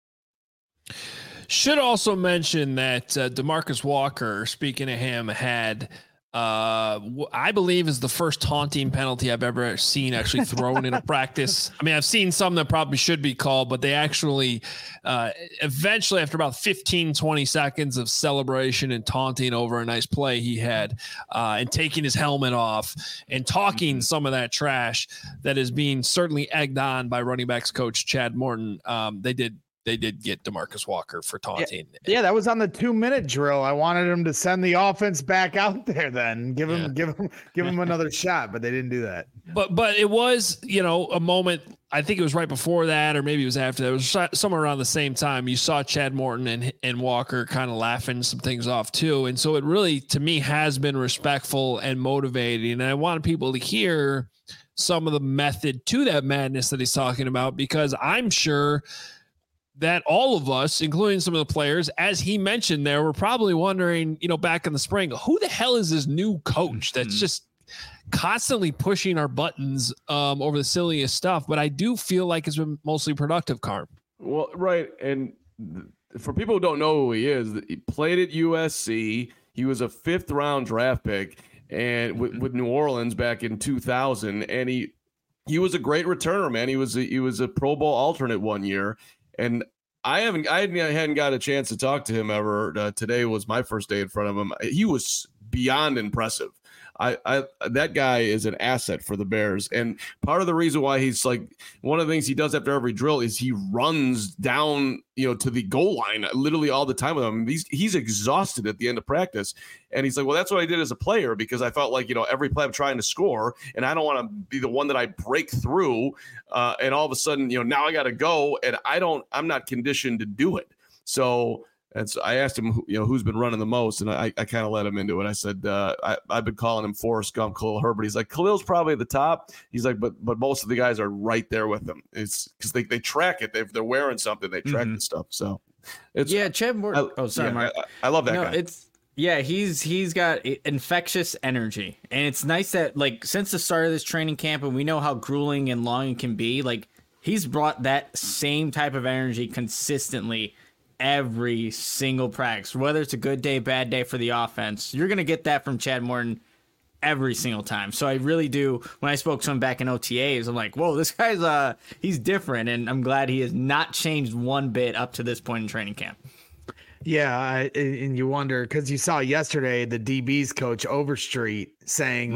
Should also mention that DeMarcus Walker, speaking of him, had I believe is the first taunting penalty I've ever seen actually thrown in a practice. I mean, I've seen some that probably should be called, but they actually eventually, after about 15, 20 seconds of celebration and taunting over a nice play he had, and taking his helmet off and talking some of that trash that is being certainly egged on by running backs coach Chad Morton, they did get DeMarcus Walker for taunting. Yeah, that was on the 2-minute drill. I wanted him to send the offense back out there, then give him another shot, but they didn't do that. But it was, you know, a moment I think it was right before that, or maybe it was after that. It was somewhere around the same time. You saw Chad Morton and Walker kind of laughing some things off too. And so it really, to me, has been respectful and motivating. And I want people to hear some of the method to that madness that he's talking about, because I'm sure that all of us, including some of the players, as he mentioned there, were probably wondering, back in the spring, who the hell is this new coach that's just constantly pushing our buttons over the silliest stuff? But I do feel like it's been mostly productive, Carm. Well, right. And for people who don't know who he is, he played at USC. He was a 5th round draft pick and with New Orleans back in 2000. And he was a great returner, man. He was a Pro Bowl alternate one year. And I hadn't got a chance to talk to him ever. Today was my first day in front of him. He was beyond impressive. That guy is an asset for the Bears. And part of the reason why he's like, one of the things he does after every drill is he runs down, to the goal line literally all the time with him. He's exhausted at the end of practice. And he's like, well, that's what I did as a player, because I felt like, every play I'm trying to score and I don't want to be the one that I break through. And all of a sudden, now I got to go and I'm not conditioned to do it. So I asked him, who's been running the most, and I kind of let him into it. I said, I've been calling him Forrest Gump, Khalil Herbert. He's like, Khalil's probably at the top. He's like, but most of the guys are right there with him. It's because they track it. They're wearing something. They track the stuff. So it's Chad Morton. Mark. I love that guy. He's got infectious energy, and it's nice that since the start of this training camp, and we know how grueling and long it can be. He's brought that same type of energy consistently every single practice, whether it's a good day, bad day for the offense. You're going to get that from Chad Morton every single time. So I really do. When I spoke to him back in OTAs, I'm like, whoa, this guy's he's different. And I'm glad he has not changed one bit up to this point in training camp. Yeah, and you wonder, because you saw yesterday the DB's coach Overstreet saying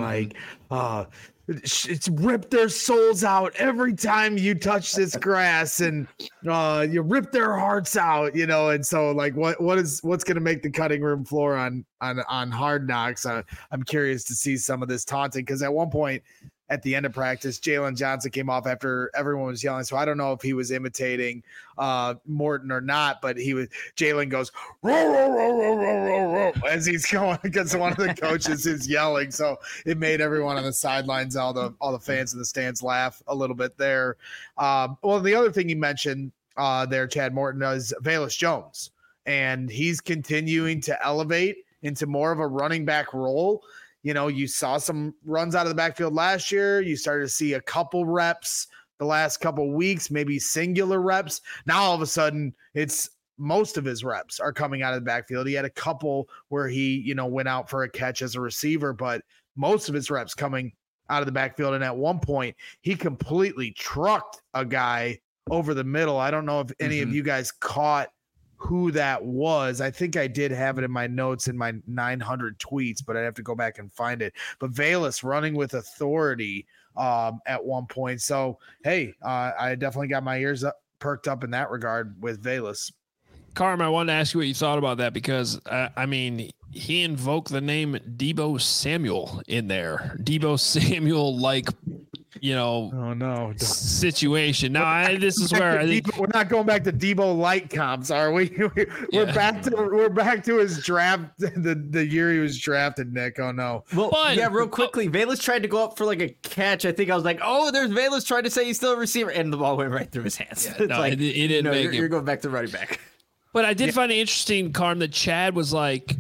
it's ripped their souls out every time you touch this grass, and you rip their hearts out, and so what's going to make the cutting room floor on Hard Knocks? I'm curious to see some of this taunting, because at one point at the end of practice, Jalen Johnson came off after everyone was yelling. So I don't know if he was imitating Morton or not, but Jalen goes, row, row, row, row, row, row, row, as he's going because one of the coaches is yelling. So it made everyone on the sidelines, all the fans in the stands laugh a little bit there. Well, the other thing you mentioned there, Chad Morton, is Velus Jones, and he's continuing to elevate into more of a running back role. You saw some runs out of the backfield last year. You started to see a couple reps the last couple weeks, maybe singular reps. Now, all of a sudden, it's most of his reps are coming out of the backfield. He had a couple where he, went out for a catch as a receiver, but most of his reps coming out of the backfield. And at one point, he completely trucked a guy over the middle. I don't know if any of you guys caught who that was. I think I did have it in my notes in my 900 tweets, but I'd have to go back and find it. But Velus running with authority at one point. So, hey, I definitely got my ears perked up in that regard with Velus. Carm, I wanted to ask you what you thought about that, because, he invoked the name Deebo Samuel in there. Deebo Samuel, oh no, situation. Now, this is where I think we're not going back to Deebo light comps, are we? We're back to his draft, the year he was drafted, Nick. Oh no. Well, real quickly, Velus tried to go up for a catch. I think I was like, oh, there's Velus trying to say he's still a receiver, and the ball went right through his hands. Yeah, it didn't make it. You're going back to running back. But I did find it interesting, Carm, that Chad was like,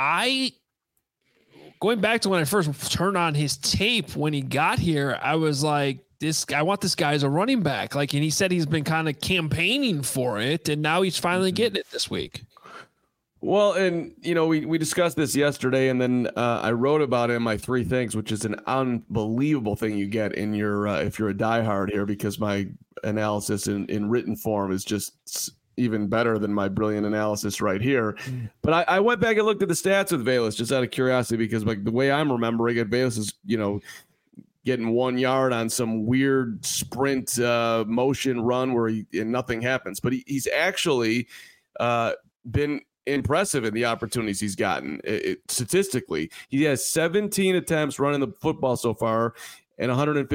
going back to when I first turned on his tape when he got here, I was like, I want this guy as a running back. And he said he's been kind of campaigning for it, and now he's finally getting it this week. Well, and, we discussed this yesterday, and then I wrote about it in my 3 things, which is an unbelievable thing you get in your if you're a diehard here, because my analysis in written form is just even better than my brilliant analysis right here. But I went back and looked at the stats with Velus just out of curiosity, because the way I'm remembering it, Velus is, getting 1 yard on some weird sprint motion run where nothing happens. But he's actually been impressive in the opportunities he's gotten. Statistically, he has 17 attempts running the football so far. and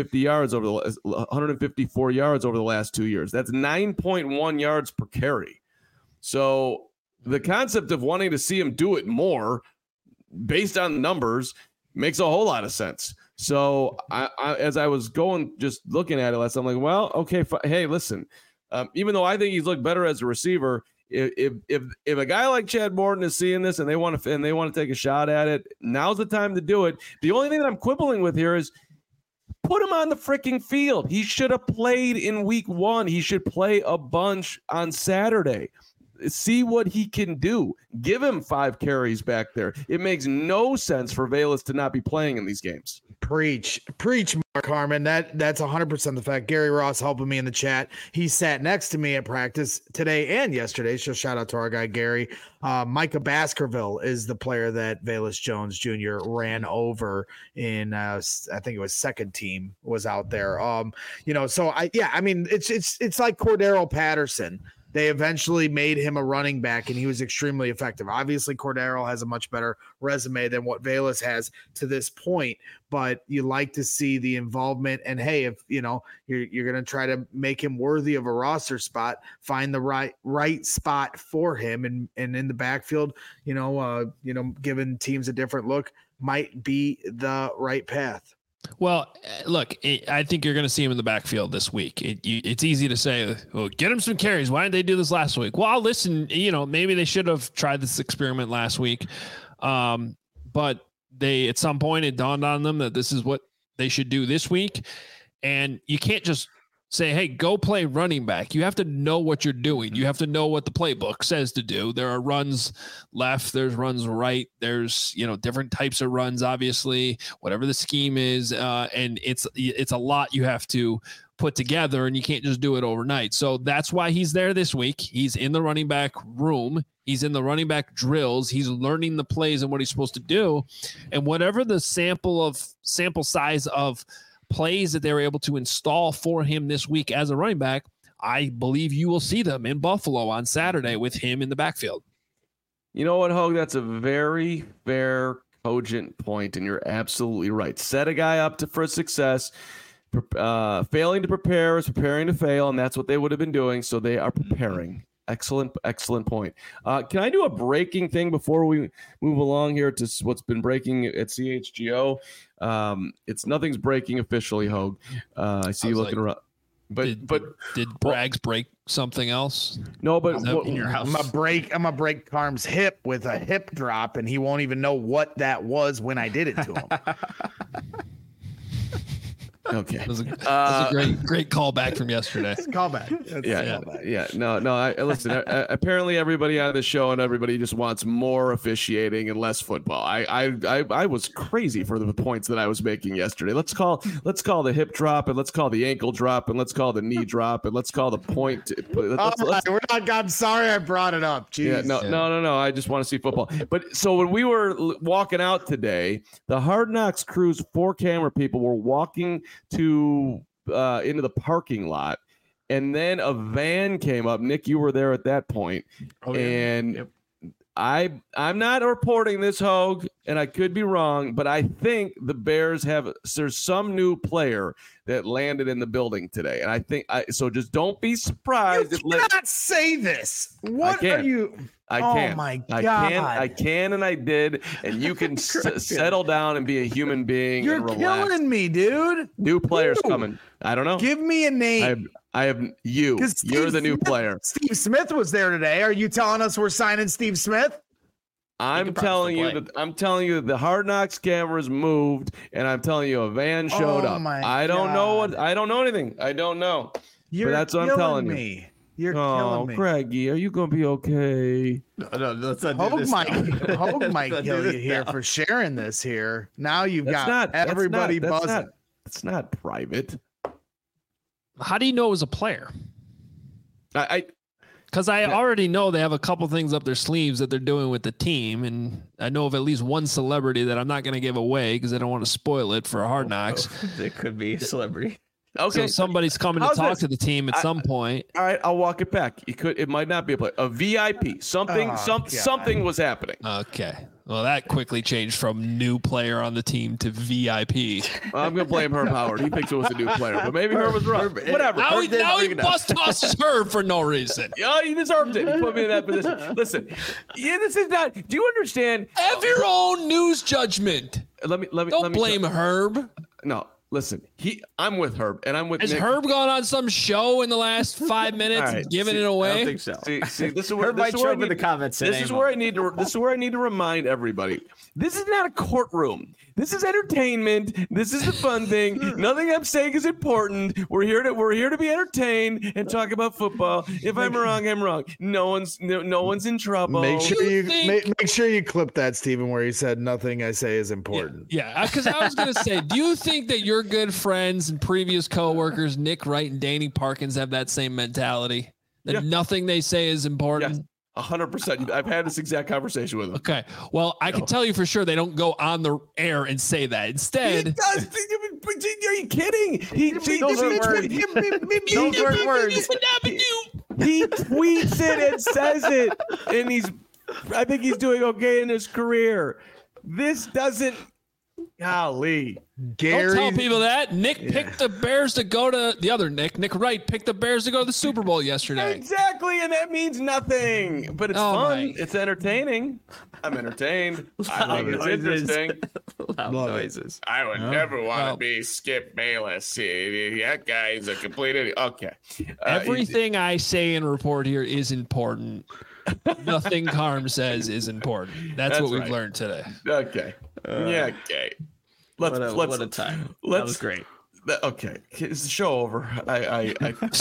154 yards over the last 2 years. That's 9.1 yards per carry. So the concept of wanting to see him do it more based on the numbers makes a whole lot of sense. So I as I was just looking at it last, I'm like, well, okay, hey, listen, even though I think he's looked better as a receiver, if a guy like Chad Morton is seeing this and they want to take a shot at it, now's the time to do it. The only thing that I'm quibbling with here is put him on the freaking field. He should have played in week 1. He should play a bunch on Saturday. See what he can do. Give him 5 carries back there. It makes no sense for Velus to not be playing in these games. Preach, Mark Harmon. That's 100% the fact. Gary Ross helping me in the chat. He sat next to me at practice today and yesterday. So shout out to our guy Gary. Micah Baskerville is the player that Velus Jones Jr. ran over in. I think it was second team was out there. So I mean it's like Cordero Patterson. They eventually made him a running back, and he was extremely effective. Obviously, Cordero has a much better resume than what Velus has to this point, but you like to see the involvement. And hey, if you're going to try to make him worthy of a roster spot, find the right spot for him, and in the backfield, giving teams a different look might be the right path. Well, look, I think you're going to see him in the backfield this week. It's easy to say, well, get him some carries. Why didn't they do this last week? Well, listen, maybe they should have tried this experiment last week. But at some point it dawned on them that this is what they should do this week. And you can't just say, hey, go play running back. You have to know what you're doing. You have to know what the playbook says to do. There are runs left, there's runs right. There's, different types of runs, obviously, whatever the scheme is. And it's a lot you have to put together, and you can't just do it overnight. So that's why he's there this week. He's in the running back room. He's in the running back drills. He's learning the plays and what he's supposed to do. And whatever the sample size of plays that they were able to install for him this week as a running back, I believe you will see them in Buffalo on Saturday with him in the backfield. You know what, Hogue? That's a very fair, cogent point, and you're absolutely right. Set a guy up for success. Failing to prepare is preparing to fail, and that's what they would have been doing, so they are preparing. Excellent point. Can I do a breaking thing before we move along here to what's been breaking at CHGO? Nothing's breaking officially, Hogue. I see you looking around. But did Braggs break something else? No, but in your house? I'm gonna break Carm's hip with a hip drop, and he won't even know what that was when I did it to him. Okay. That was a great callback from yesterday. Callback. Yeah. No. Listen. Apparently, everybody on the show and everybody just wants more officiating and less football. I was crazy for the points that I was making yesterday. Let's call the hip drop, and let's call the ankle drop, and let's call the knee drop, and let's call the point. I'm sorry I brought it up. Jeez. Yeah. No. I just want to see football. But so when we were walking out today, the Hard Knocks Crew's 4 camera people were walking into the parking lot, and then a van came up. Nick, you were there at that point. Yep. I'm not reporting this, Hogue, and I could be wrong, but I think the Bears there's some new player that landed in the building today, and I think so. Just don't be surprised. You cannot say this. What are you? I can. Oh my God. I can, and I did. And you can settle down and be a human being. You're and relax. killing me, dude. New players coming. I don't know. Give me a name. I have you. You're the new player. Steve Smith was there today. Are you telling us we're signing Steve Smith? I'm telling you that the Hard Knocks cameras moved, and I'm telling you a van showed up. I don't know anything. I don't know. But that's what I'm telling you. You're killing me. Craigie, are you gonna be okay? No, let's not do this. Hogue might kill you here for sharing this here. Now you've got everybody buzzing. It's not private. How do you know it was a player? Because I already know they have a couple things up their sleeves that they're doing with the team, and I know of at least one celebrity that I'm not going to give away because I don't want to spoil it for Hard Knocks. It could be a celebrity. Okay. So somebody's coming to talk to the team at some point. All right, I'll walk it back. It might not be a play. A VIP. Something was happening. Okay. Well, that quickly changed from new player on the team to VIP. I'm gonna blame Herb Howard. He thinks it was a new player, but maybe Herb was wrong. Whatever. Now he tosses Herb for no reason. Yeah, he deserved it. He put me in that position. Listen, this is not. Do you understand? Have your own news judgment. Let me. Don't blame Herb. No. Listen, I'm with Herb, and I'm with Has Nick. Herb gone on some show in the last 5 minutes and giving it away? I don't think so. See, this is where Herb might show up in the comments. This is where I need to remind everybody. This is not a courtroom. This is entertainment. This is the fun thing. Nothing I'm saying is important. We're here to be entertained and talk about football. If I'm wrong, I'm wrong. No one's in trouble. Make sure you clip that, Stephen, where he said nothing I say is important. Yeah, because I was gonna say, do you think that your good friends and previous coworkers, Nick Wright and Danny Parkins, have that same mentality? That nothing they say is important? Yes. 100%. I've had this exact conversation with them. Okay. Well, I can tell you for sure they don't go on the air and say that. Instead, he does. Are you kidding? Those weren't words. He tweets it and says it, and I think he's doing okay in his career. This doesn't. Golly. Don't tell people that. Nick picked the Bears to go to the other Nick Wright picked the Bears to go to the Super Bowl yesterday. Exactly, and that means nothing. But it's fun. It's entertaining. I'm entertained. I think it's interesting. Loud noises. I would never want to be Skip Bayless. That guy is a complete idiot. Okay. Everything I say and report here is important. Nothing Carm says is important. That's what we've learned today. Okay. Okay. What a time. That was great. Okay. Is the show over? I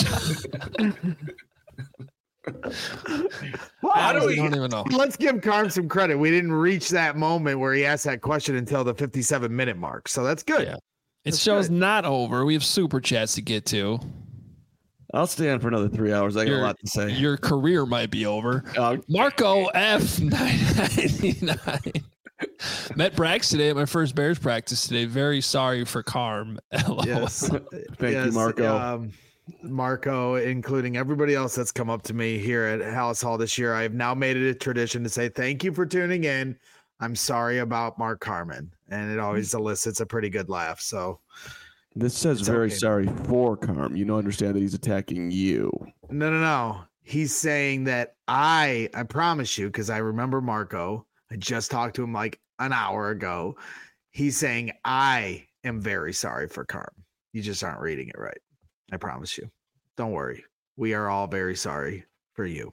don't even know. Let's give Carm some credit. We didn't reach that moment where he asked that question until the 57-minute mark. So that's good. Yeah. Show's not over. We have super chats to get to. I'll stay on for another 3 hours. I got a lot to say. Your career might be over. Marco F 999 met Brax today at my first Bears practice today. Very sorry for Carm. Yes. Thank you, Marco. Marco, including everybody else that's come up to me here at Hallis Hall this year. I have now made it a tradition to say thank you for tuning in. I'm sorry about Mark Carman, and it always elicits a pretty good laugh. So this says very sorry for Carm. You don't understand that he's attacking you. No. He's saying that I promise you, because I remember Marco. I just talked to him like an hour ago. He's saying I am very sorry for Carm. You just aren't reading it right. I promise you. Don't worry. We are all very sorry for you.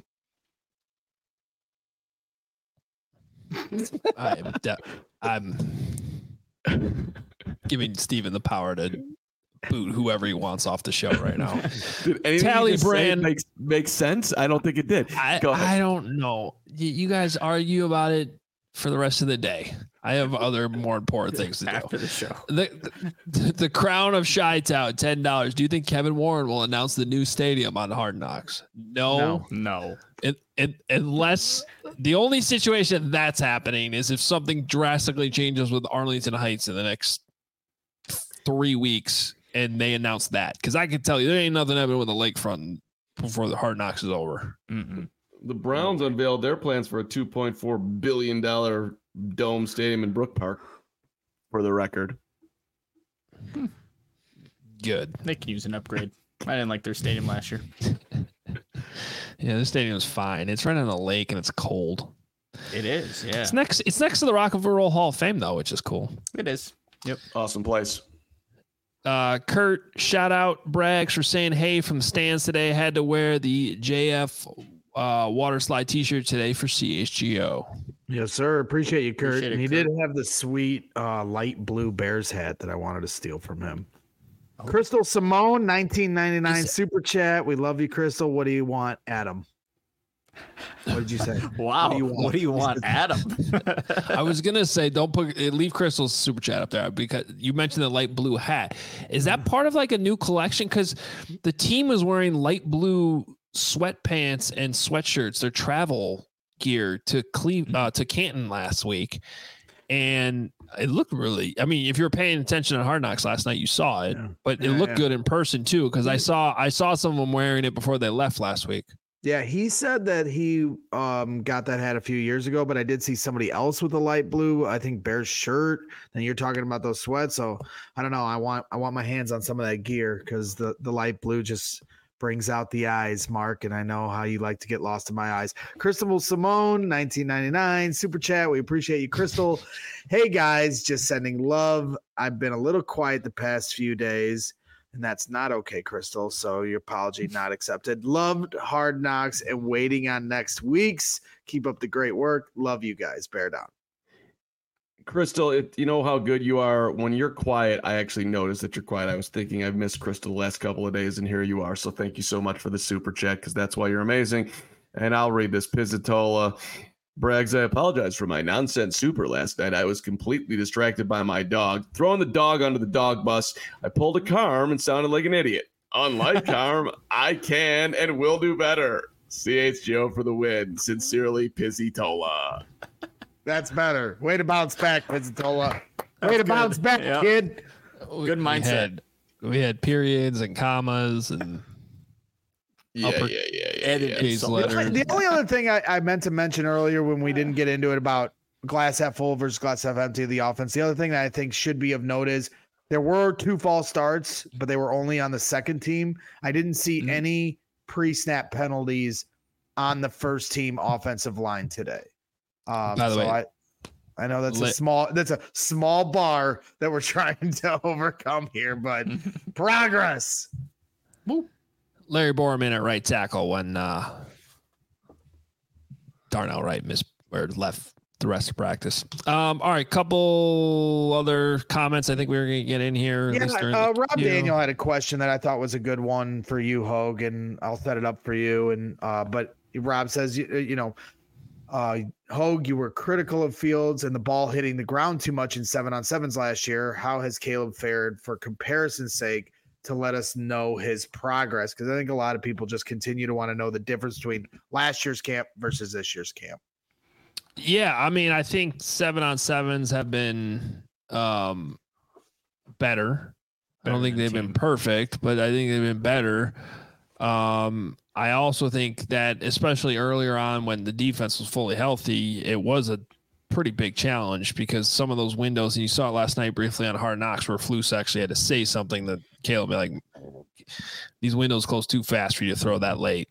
I'm giving Steven the power to boot whoever he wants off the show right now. Tally Brand makes sense. I don't think it did. Go ahead. I don't know. You guys argue about it for the rest of the day. I have other more important things to do after the show. The crown of Chi-Town, $10. Do you think Kevin Warren will announce the new stadium on Hard Knocks? No. Unless the only situation that's happening is if something drastically changes with Arlington Heights in the next 3 weeks and they announce that. Because I can tell you, there ain't nothing happening with the lakefront before the Hard Knocks is over. Mm-mm. The Browns unveiled their plans for a $2.4 billion dome stadium in Brook Park, for the record. Good. They can use an upgrade. I didn't like their stadium last year. Yeah, the stadium's fine. It's right on a lake and it's cold. It is, yeah. It's next to the Rock and Roll Hall of Fame, though, which is cool. It is. Yep. Awesome place. Kurt, shout out Braggs for saying hey from the stands today. Had to wear the JF water slide t-shirt today for CHGO. Yes, sir. Appreciate you, Kurt. Appreciate it, and he Kurt. did have the sweet light blue Bears hat that I wanted to steal from him. Crystal Simone, 1999 super chat. We love you, Crystal. What do you want, Adam? What did you say? Wow. What do you want, Adam? I was gonna say leave Crystal's super chat up there because you mentioned the light blue hat. Is that part of like a new collection? Because the team was wearing light blue sweatpants and sweatshirts, their travel gear to Canton last week. And it looked really, I mean, if you were paying attention on Hard Knocks last night, you saw it, but it looked good in person too. Cause I saw some of them wearing it before they left last week. Yeah. He said that he got that hat a few years ago, but I did see somebody else with a light blue, I think Bears shirt. And you're talking about those sweats. So I don't know. I want my hands on some of that gear because the light blue just brings out the eyes, Mark, and I know how you like to get lost in my eyes. Crystal Simone, 1999, super chat. We appreciate you, Crystal. Hey guys, just sending love. I've been a little quiet the past few days, and that's not okay, Crystal. So your apology not accepted. Loved Hard Knocks and waiting on next week's. Keep up the great work. Love you guys. Bear down. Crystal, you know how good you are when you're quiet. I actually noticed that you're quiet. I was thinking I've missed Crystal the last couple of days, and here you are. So thank you so much for the super chat, because that's why you're amazing. And I'll read this. Pizzatola brags, I apologize for my nonsense super last night. I was completely distracted by my dog. Throwing the dog under the dog bus, I pulled a Carm and sounded like an idiot. Unlike Carm, I can and will do better. CHGO for the win. Sincerely, Pizzatola. That's better. Way to bounce back, Pizzatola. Way to bounce back, kid. Good mindset. We had periods and commas and Edited letters. The only other thing I meant to mention earlier when we didn't get into it about glass half full versus glass half empty of the offense, the other thing that I think should be of note is there were 2 false starts, but they were only on the second team. I didn't see any pre-snap penalties on the first team offensive line today. By the way, I know that's a small bar that we're trying to overcome here, but progress. Woo. Larry Borman at right tackle when Darnell Wright left the rest of practice. All right, couple other comments I think we were going to get in here. Yeah, Rob Daniel had a question that I thought was a good one for you, Hogue, and I'll set it up for you. And but Rob says, Hogue, you were critical of Fields and the ball hitting the ground too much in 7-on-7s last year. How has Caleb fared, for comparison's sake, to let us know his progress? Because I think a lot of people just continue to want to know the difference between last year's camp versus this year's camp. Yeah, I mean, I think 7-on-7s have been better. I don't think they've been perfect, but I think they've been better. I also think that, especially earlier on when the defense was fully healthy, it was a pretty big challenge because some of those windows, and you saw it last night briefly on Hard Knocks, where Flus actually had to say something that Caleb be like, these windows close too fast for you to throw that late.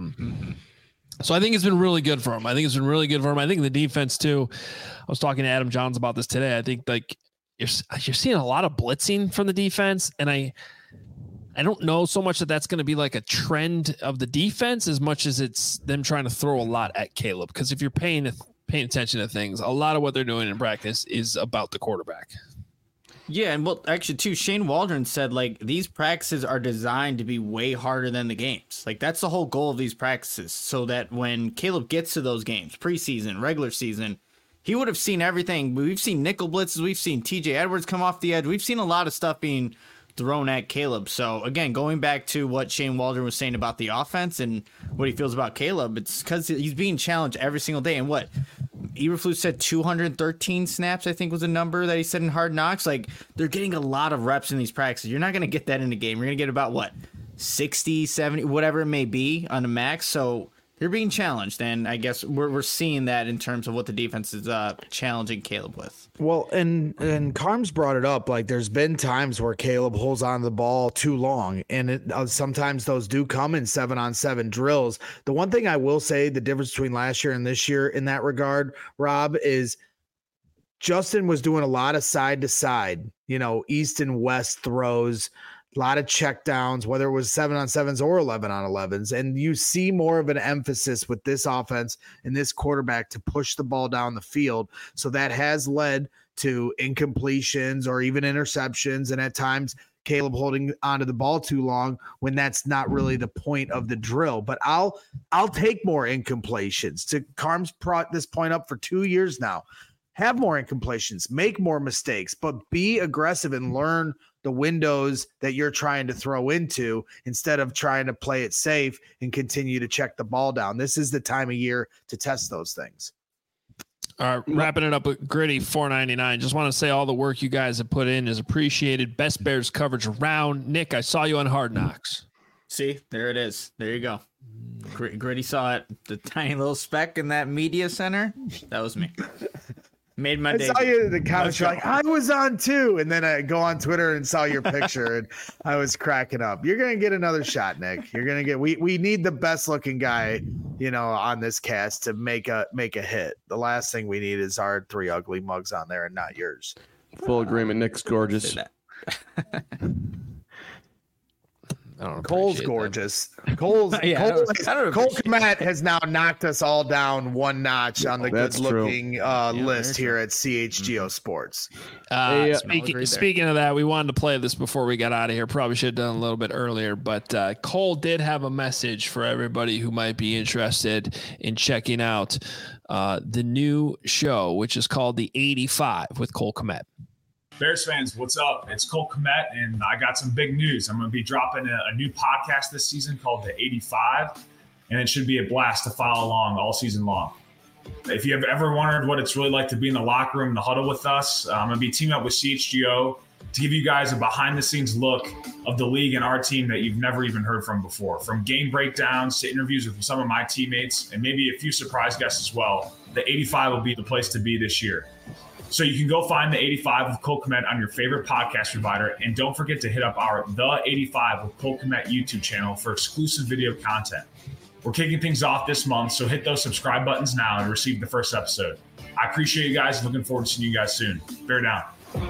So I think it's been really good for him. I think the defense too. I was talking to Adam Johns about this today. I think like you're seeing a lot of blitzing from the defense, and I don't know so much that that's going to be like a trend of the defense as much as it's them trying to throw a lot at Caleb. Because if you're paying attention to things, a lot of what they're doing in practice is about the quarterback. Yeah, and well, actually, too, Shane Waldron said, like, these practices are designed to be way harder than the games. Like, that's the whole goal of these practices, so that when Caleb gets to those games, preseason, regular season, he would have seen everything. We've seen nickel blitzes. We've seen TJ Edwards come off the edge. We've seen a lot of stuff being thrown at Caleb. So, again, going back to what Shane Waldron was saying about the offense and what he feels about Caleb, it's because he's being challenged every single day. And what Eberflus said, 213 snaps, I think was a number that he said in Hard Knocks. Like, they're getting a lot of reps in these practices. You're not going to get that in a game. You're going to get about, 60, 70, whatever it may be on the max. So you're being challenged. And I guess we're seeing that in terms of what the defense is challenging Caleb with. Well, and Carm's brought it up. Like, there's been times where Caleb holds on to the ball too long, and sometimes those do come in 7-on-7 drills. The one thing I will say, the difference between last year and this year in that regard, Rob, is Justin was doing a lot of side to side, east and west throws, a lot of check downs, whether it was 7-on-7s or 11-on-11s. And you see more of an emphasis with this offense and this quarterback to push the ball down the field. So that has led to incompletions or even interceptions. And at times Caleb holding onto the ball too long when that's not really the point of the drill. But I'll take more incompletions. To Carm's brought this point up for 2 years now. Have more incompletions, make more mistakes, but be aggressive and learn the windows that you're trying to throw into instead of trying to play it safe and continue to check the ball down. This is the time of year to test those things. Wrapping it up with Gritty 499. Just want to say all the work you guys have put in is appreciated. Best Bears coverage around. Nick, I saw you on Hard Knocks. See, there it is. There you go. Gritty saw it. The tiny little speck in that media center. That was me. Made my day. I saw you in the comments. You're like, I was on too. And then I go on Twitter and saw your picture and I was cracking up. You're going to get another shot, Nick. You're going to get, we need the best looking guy, on this cast to make a hit. The last thing we need is our 3 ugly mugs on there and not yours. Full agreement. Nick's gorgeous. Cole's gorgeous. Cole Kmet has now knocked us all down one notch on the good-looking list here at CHGO Sports. Speaking of that, we wanted to play this before we got out of here. Probably should have done a little bit earlier, but Cole did have a message for everybody who might be interested in checking out the new show, which is called The 85 with Cole Kmet. Bears fans, what's up? It's Cole Kmet, and I got some big news. I'm going to be dropping a new podcast this season called The 85, and it should be a blast to follow along all season long. If you have ever wondered what it's really like to be in the locker room, the huddle with us, I'm going to be teaming up with CHGO to give you guys a behind-the-scenes look of the league and our team that you've never even heard from before. From game breakdowns to interviews with some of my teammates and maybe a few surprise guests as well, The 85 will be the place to be this year. So you can go find The 85 with Cole Kmet on your favorite podcast provider. And don't forget to hit up our The 85 with Cole Kmet YouTube channel for exclusive video content. We're kicking things off this month, so hit those subscribe buttons now and receive the first episode. I appreciate you guys. Looking forward to seeing you guys soon. Bear down.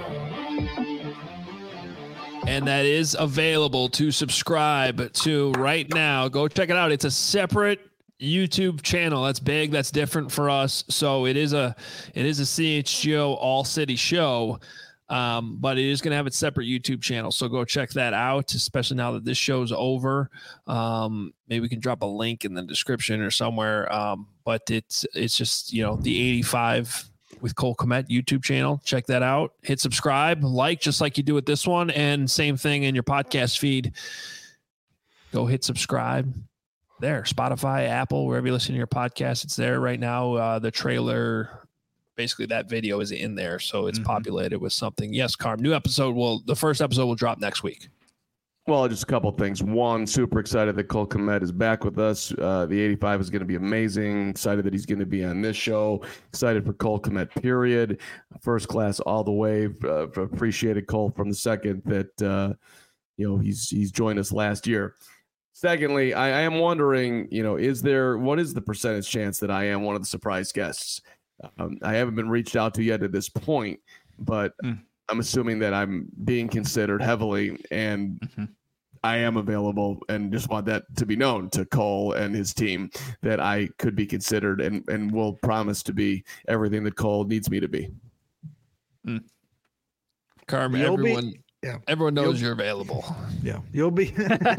And that is available to subscribe to right now. Go check it out. It's a separate YouTube channel. That's big. That's different for us. So it is a CHGO all city show, but it is going to have its separate YouTube channel. So go check that out, especially now that this show's over. Maybe we can drop a link in the description or somewhere. But it's just, the 85 with Cole Kmet YouTube channel. Check that out. Hit subscribe, just like you do with this one, and same thing in your podcast feed. Go hit subscribe. There, Spotify, Apple, wherever you listen to your podcast, it's there right now. The trailer, basically that video is in there, so it's populated with something. Yes, Carm, the first episode will drop next week. Well, just a couple of things. One, super excited that Cole Kmet is back with us. The 85 is going to be amazing. Excited that he's going to be on this show. Excited for Cole Kmet, period. First class all the way. Appreciated Cole from the second that he's joined us last year. Secondly, I am wondering, what is the percentage chance that I am one of the surprise guests? I haven't been reached out to yet at this point, but I'm assuming that I'm being considered heavily, and I am available, and just want that to be known to Cole and his team that I could be considered and will promise to be everything that Cole needs me to be. Carm, everyone knows you're available. Yeah, you'll be.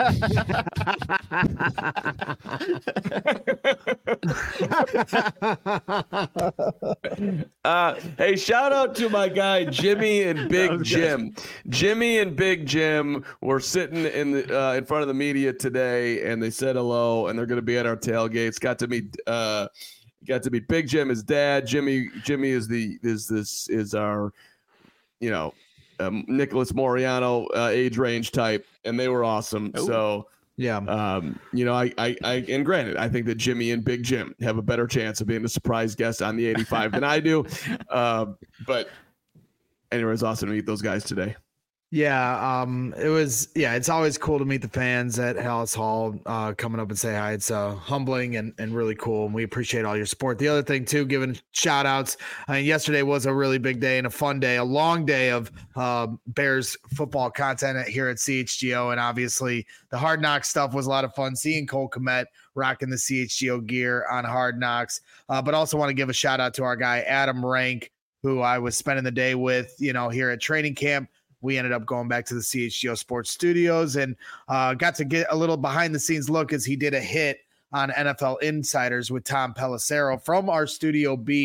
Hey, shout out to my guy Jimmy and Big Jim. Jimmy and Big Jim were sitting in front of the media today, and they said hello, and they're going to be at our tailgates. Got to meet Big Jim, his dad. Jimmy is our Nicholas Moriano age range type, and they were awesome. Ooh. So yeah, I and granted, I think that Jimmy and Big Jim have a better chance of being a surprise guest on the 85 than I do. But anyway, it's awesome to meet those guys today. Yeah, it's always cool to meet the fans at Hallis Hall coming up and say hi. It's humbling and really cool, and we appreciate all your support. The other thing, too, giving shout-outs. Yesterday was a really big day and a fun day, a long day of Bears football content here at CHGO, and obviously the Hard Knocks stuff was a lot of fun, seeing Cole Kmet rocking the CHGO gear on Hard Knocks, but also want to give a shout-out to our guy Adam Rank, who I was spending the day with, here at training camp. We ended up going back to the CHGO Sports Studios and got to get a little behind-the-scenes look as he did a hit on NFL Insiders with Tom Pelissero from our Studio B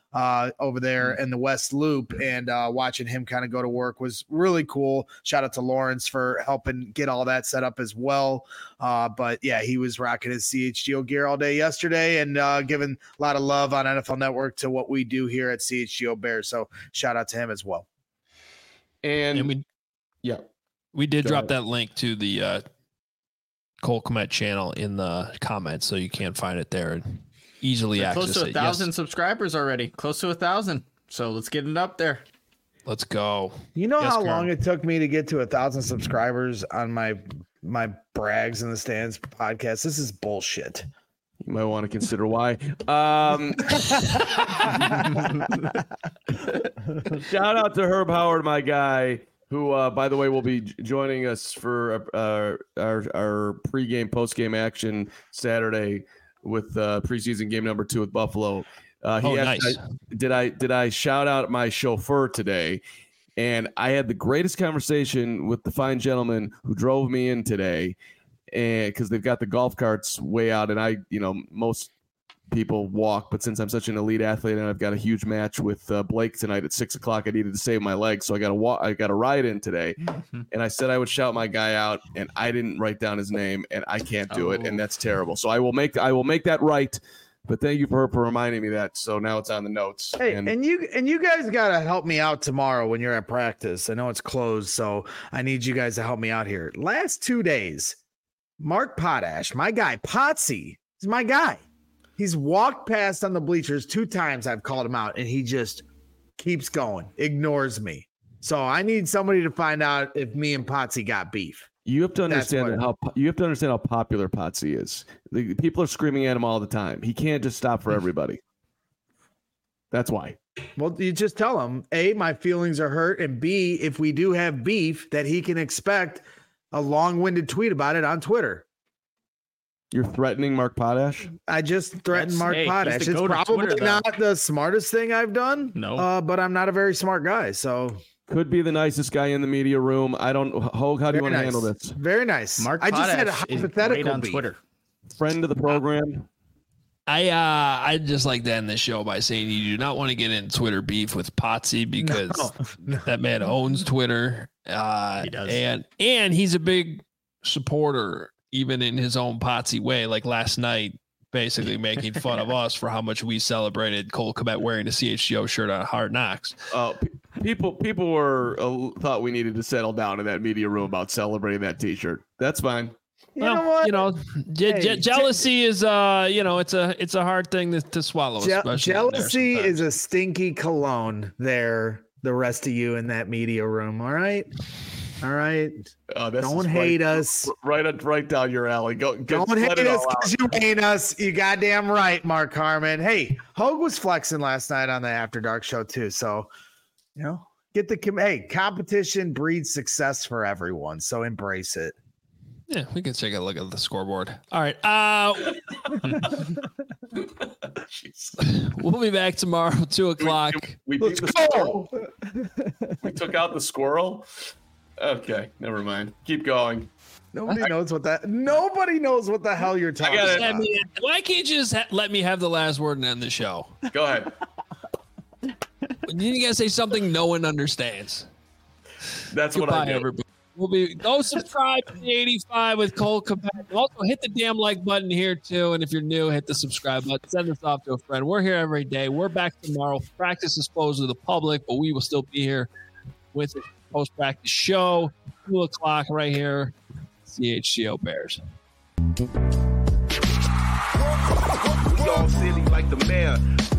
over there in the West Loop, and watching him kind of go to work was really cool. Shout out to Lawrence for helping get all that set up as well. But yeah, he was rocking his CHGO gear all day yesterday and giving a lot of love on NFL Network to what we do here at CHGO Bears. So shout out to him as well. And we did drop that link to the Cole Kmet channel in the comments, so you can find it there and easily access it. Close to 1,000 subscribers already. Close to 1,000. So let's get it up there. Let's go. You know how long it took me to get to 1,000 subscribers on my Brags in the Stands podcast? This is bullshit. You might want to consider why. Shout out to Herb Howard, my guy, who, by the way, will be joining us for our pregame, postgame action Saturday with preseason game number 2 with Buffalo. Nice. Did I shout out my chauffeur today? And I had the greatest conversation with the fine gentleman who drove me in today, and because they've got the golf carts way out, and most people walk, but since I'm such an elite athlete and I've got a huge match with Blake tonight at 6:00, I needed to save my legs, so I got a ride in today. And I said I would shout my guy out, and I didn't write down his name, and I can't do it, and that's terrible. So I will make that right. But thank you for reminding me that. So now it's on the notes. Hey, and you guys gotta help me out tomorrow when you're at practice. I know it's closed, so I need you guys to help me out here. Last 2 days, Mark Potash, my guy, Potsy, is my guy. He's walked past on the bleachers 2 times. I've called him out, and he just keeps going, ignores me. So I need somebody to find out if me and Potsy got beef. You have to understand how popular Potsy is. The people are screaming at him all the time. He can't just stop for everybody. That's why. Well, you just tell him, A, my feelings are hurt, and B, if we do have beef, that he can expect a long-winded tweet about it on Twitter. You're threatening Mark Potash? I just threatened Mark Potash. It's probably not the smartest thing I've done. No. But I'm not a very smart guy, so... Could be the nicest guy in the media room. I don't. Hogue, how do you want to handle this? Very nice. Mark I just had a Potash hypothetical on Twitter. Friend of the program. I'd just like to end this show by saying you do not want to get in Twitter beef with Potsy because that man owns Twitter. He does. And he's a big supporter, even in his own Potsy way. Like last night, basically making fun of us for how much we celebrated Cole Kmet wearing a CHGO shirt on Hard Knocks. People were thought we needed to settle down in that media room about celebrating that T-shirt. That's fine. Jealousy is it's a hard thing to swallow. Jealousy is a stinky cologne. There, the rest of you in that media room. All right. Don't hate us. Right down your alley. Don't hate us because you hate us. You goddamn right, Mark Harmon. Hey, Hogue was flexing last night on the After Dark show too. So, competition breeds success for everyone. So embrace it. Yeah, we can take a look at the scoreboard. All right. We'll be back tomorrow, 2:00. We beat the squirrel. We took out the squirrel. Okay, never mind. Keep going. Nobody knows what the hell you're talking about. Why can't you just let me have the last word and end the show? Go ahead. You gotta say something no one understands. That's what I do. Everybody. Go subscribe to the 85 with Cole Kmet. Also hit the damn like button here too. And if you're new, hit the subscribe button. Send this off to a friend. We're here every day. We're back tomorrow. Practice is closed to the public, but we will still be here with a post-practice show, 2:00 right here. CHGO Bears. We all silly like the mayor.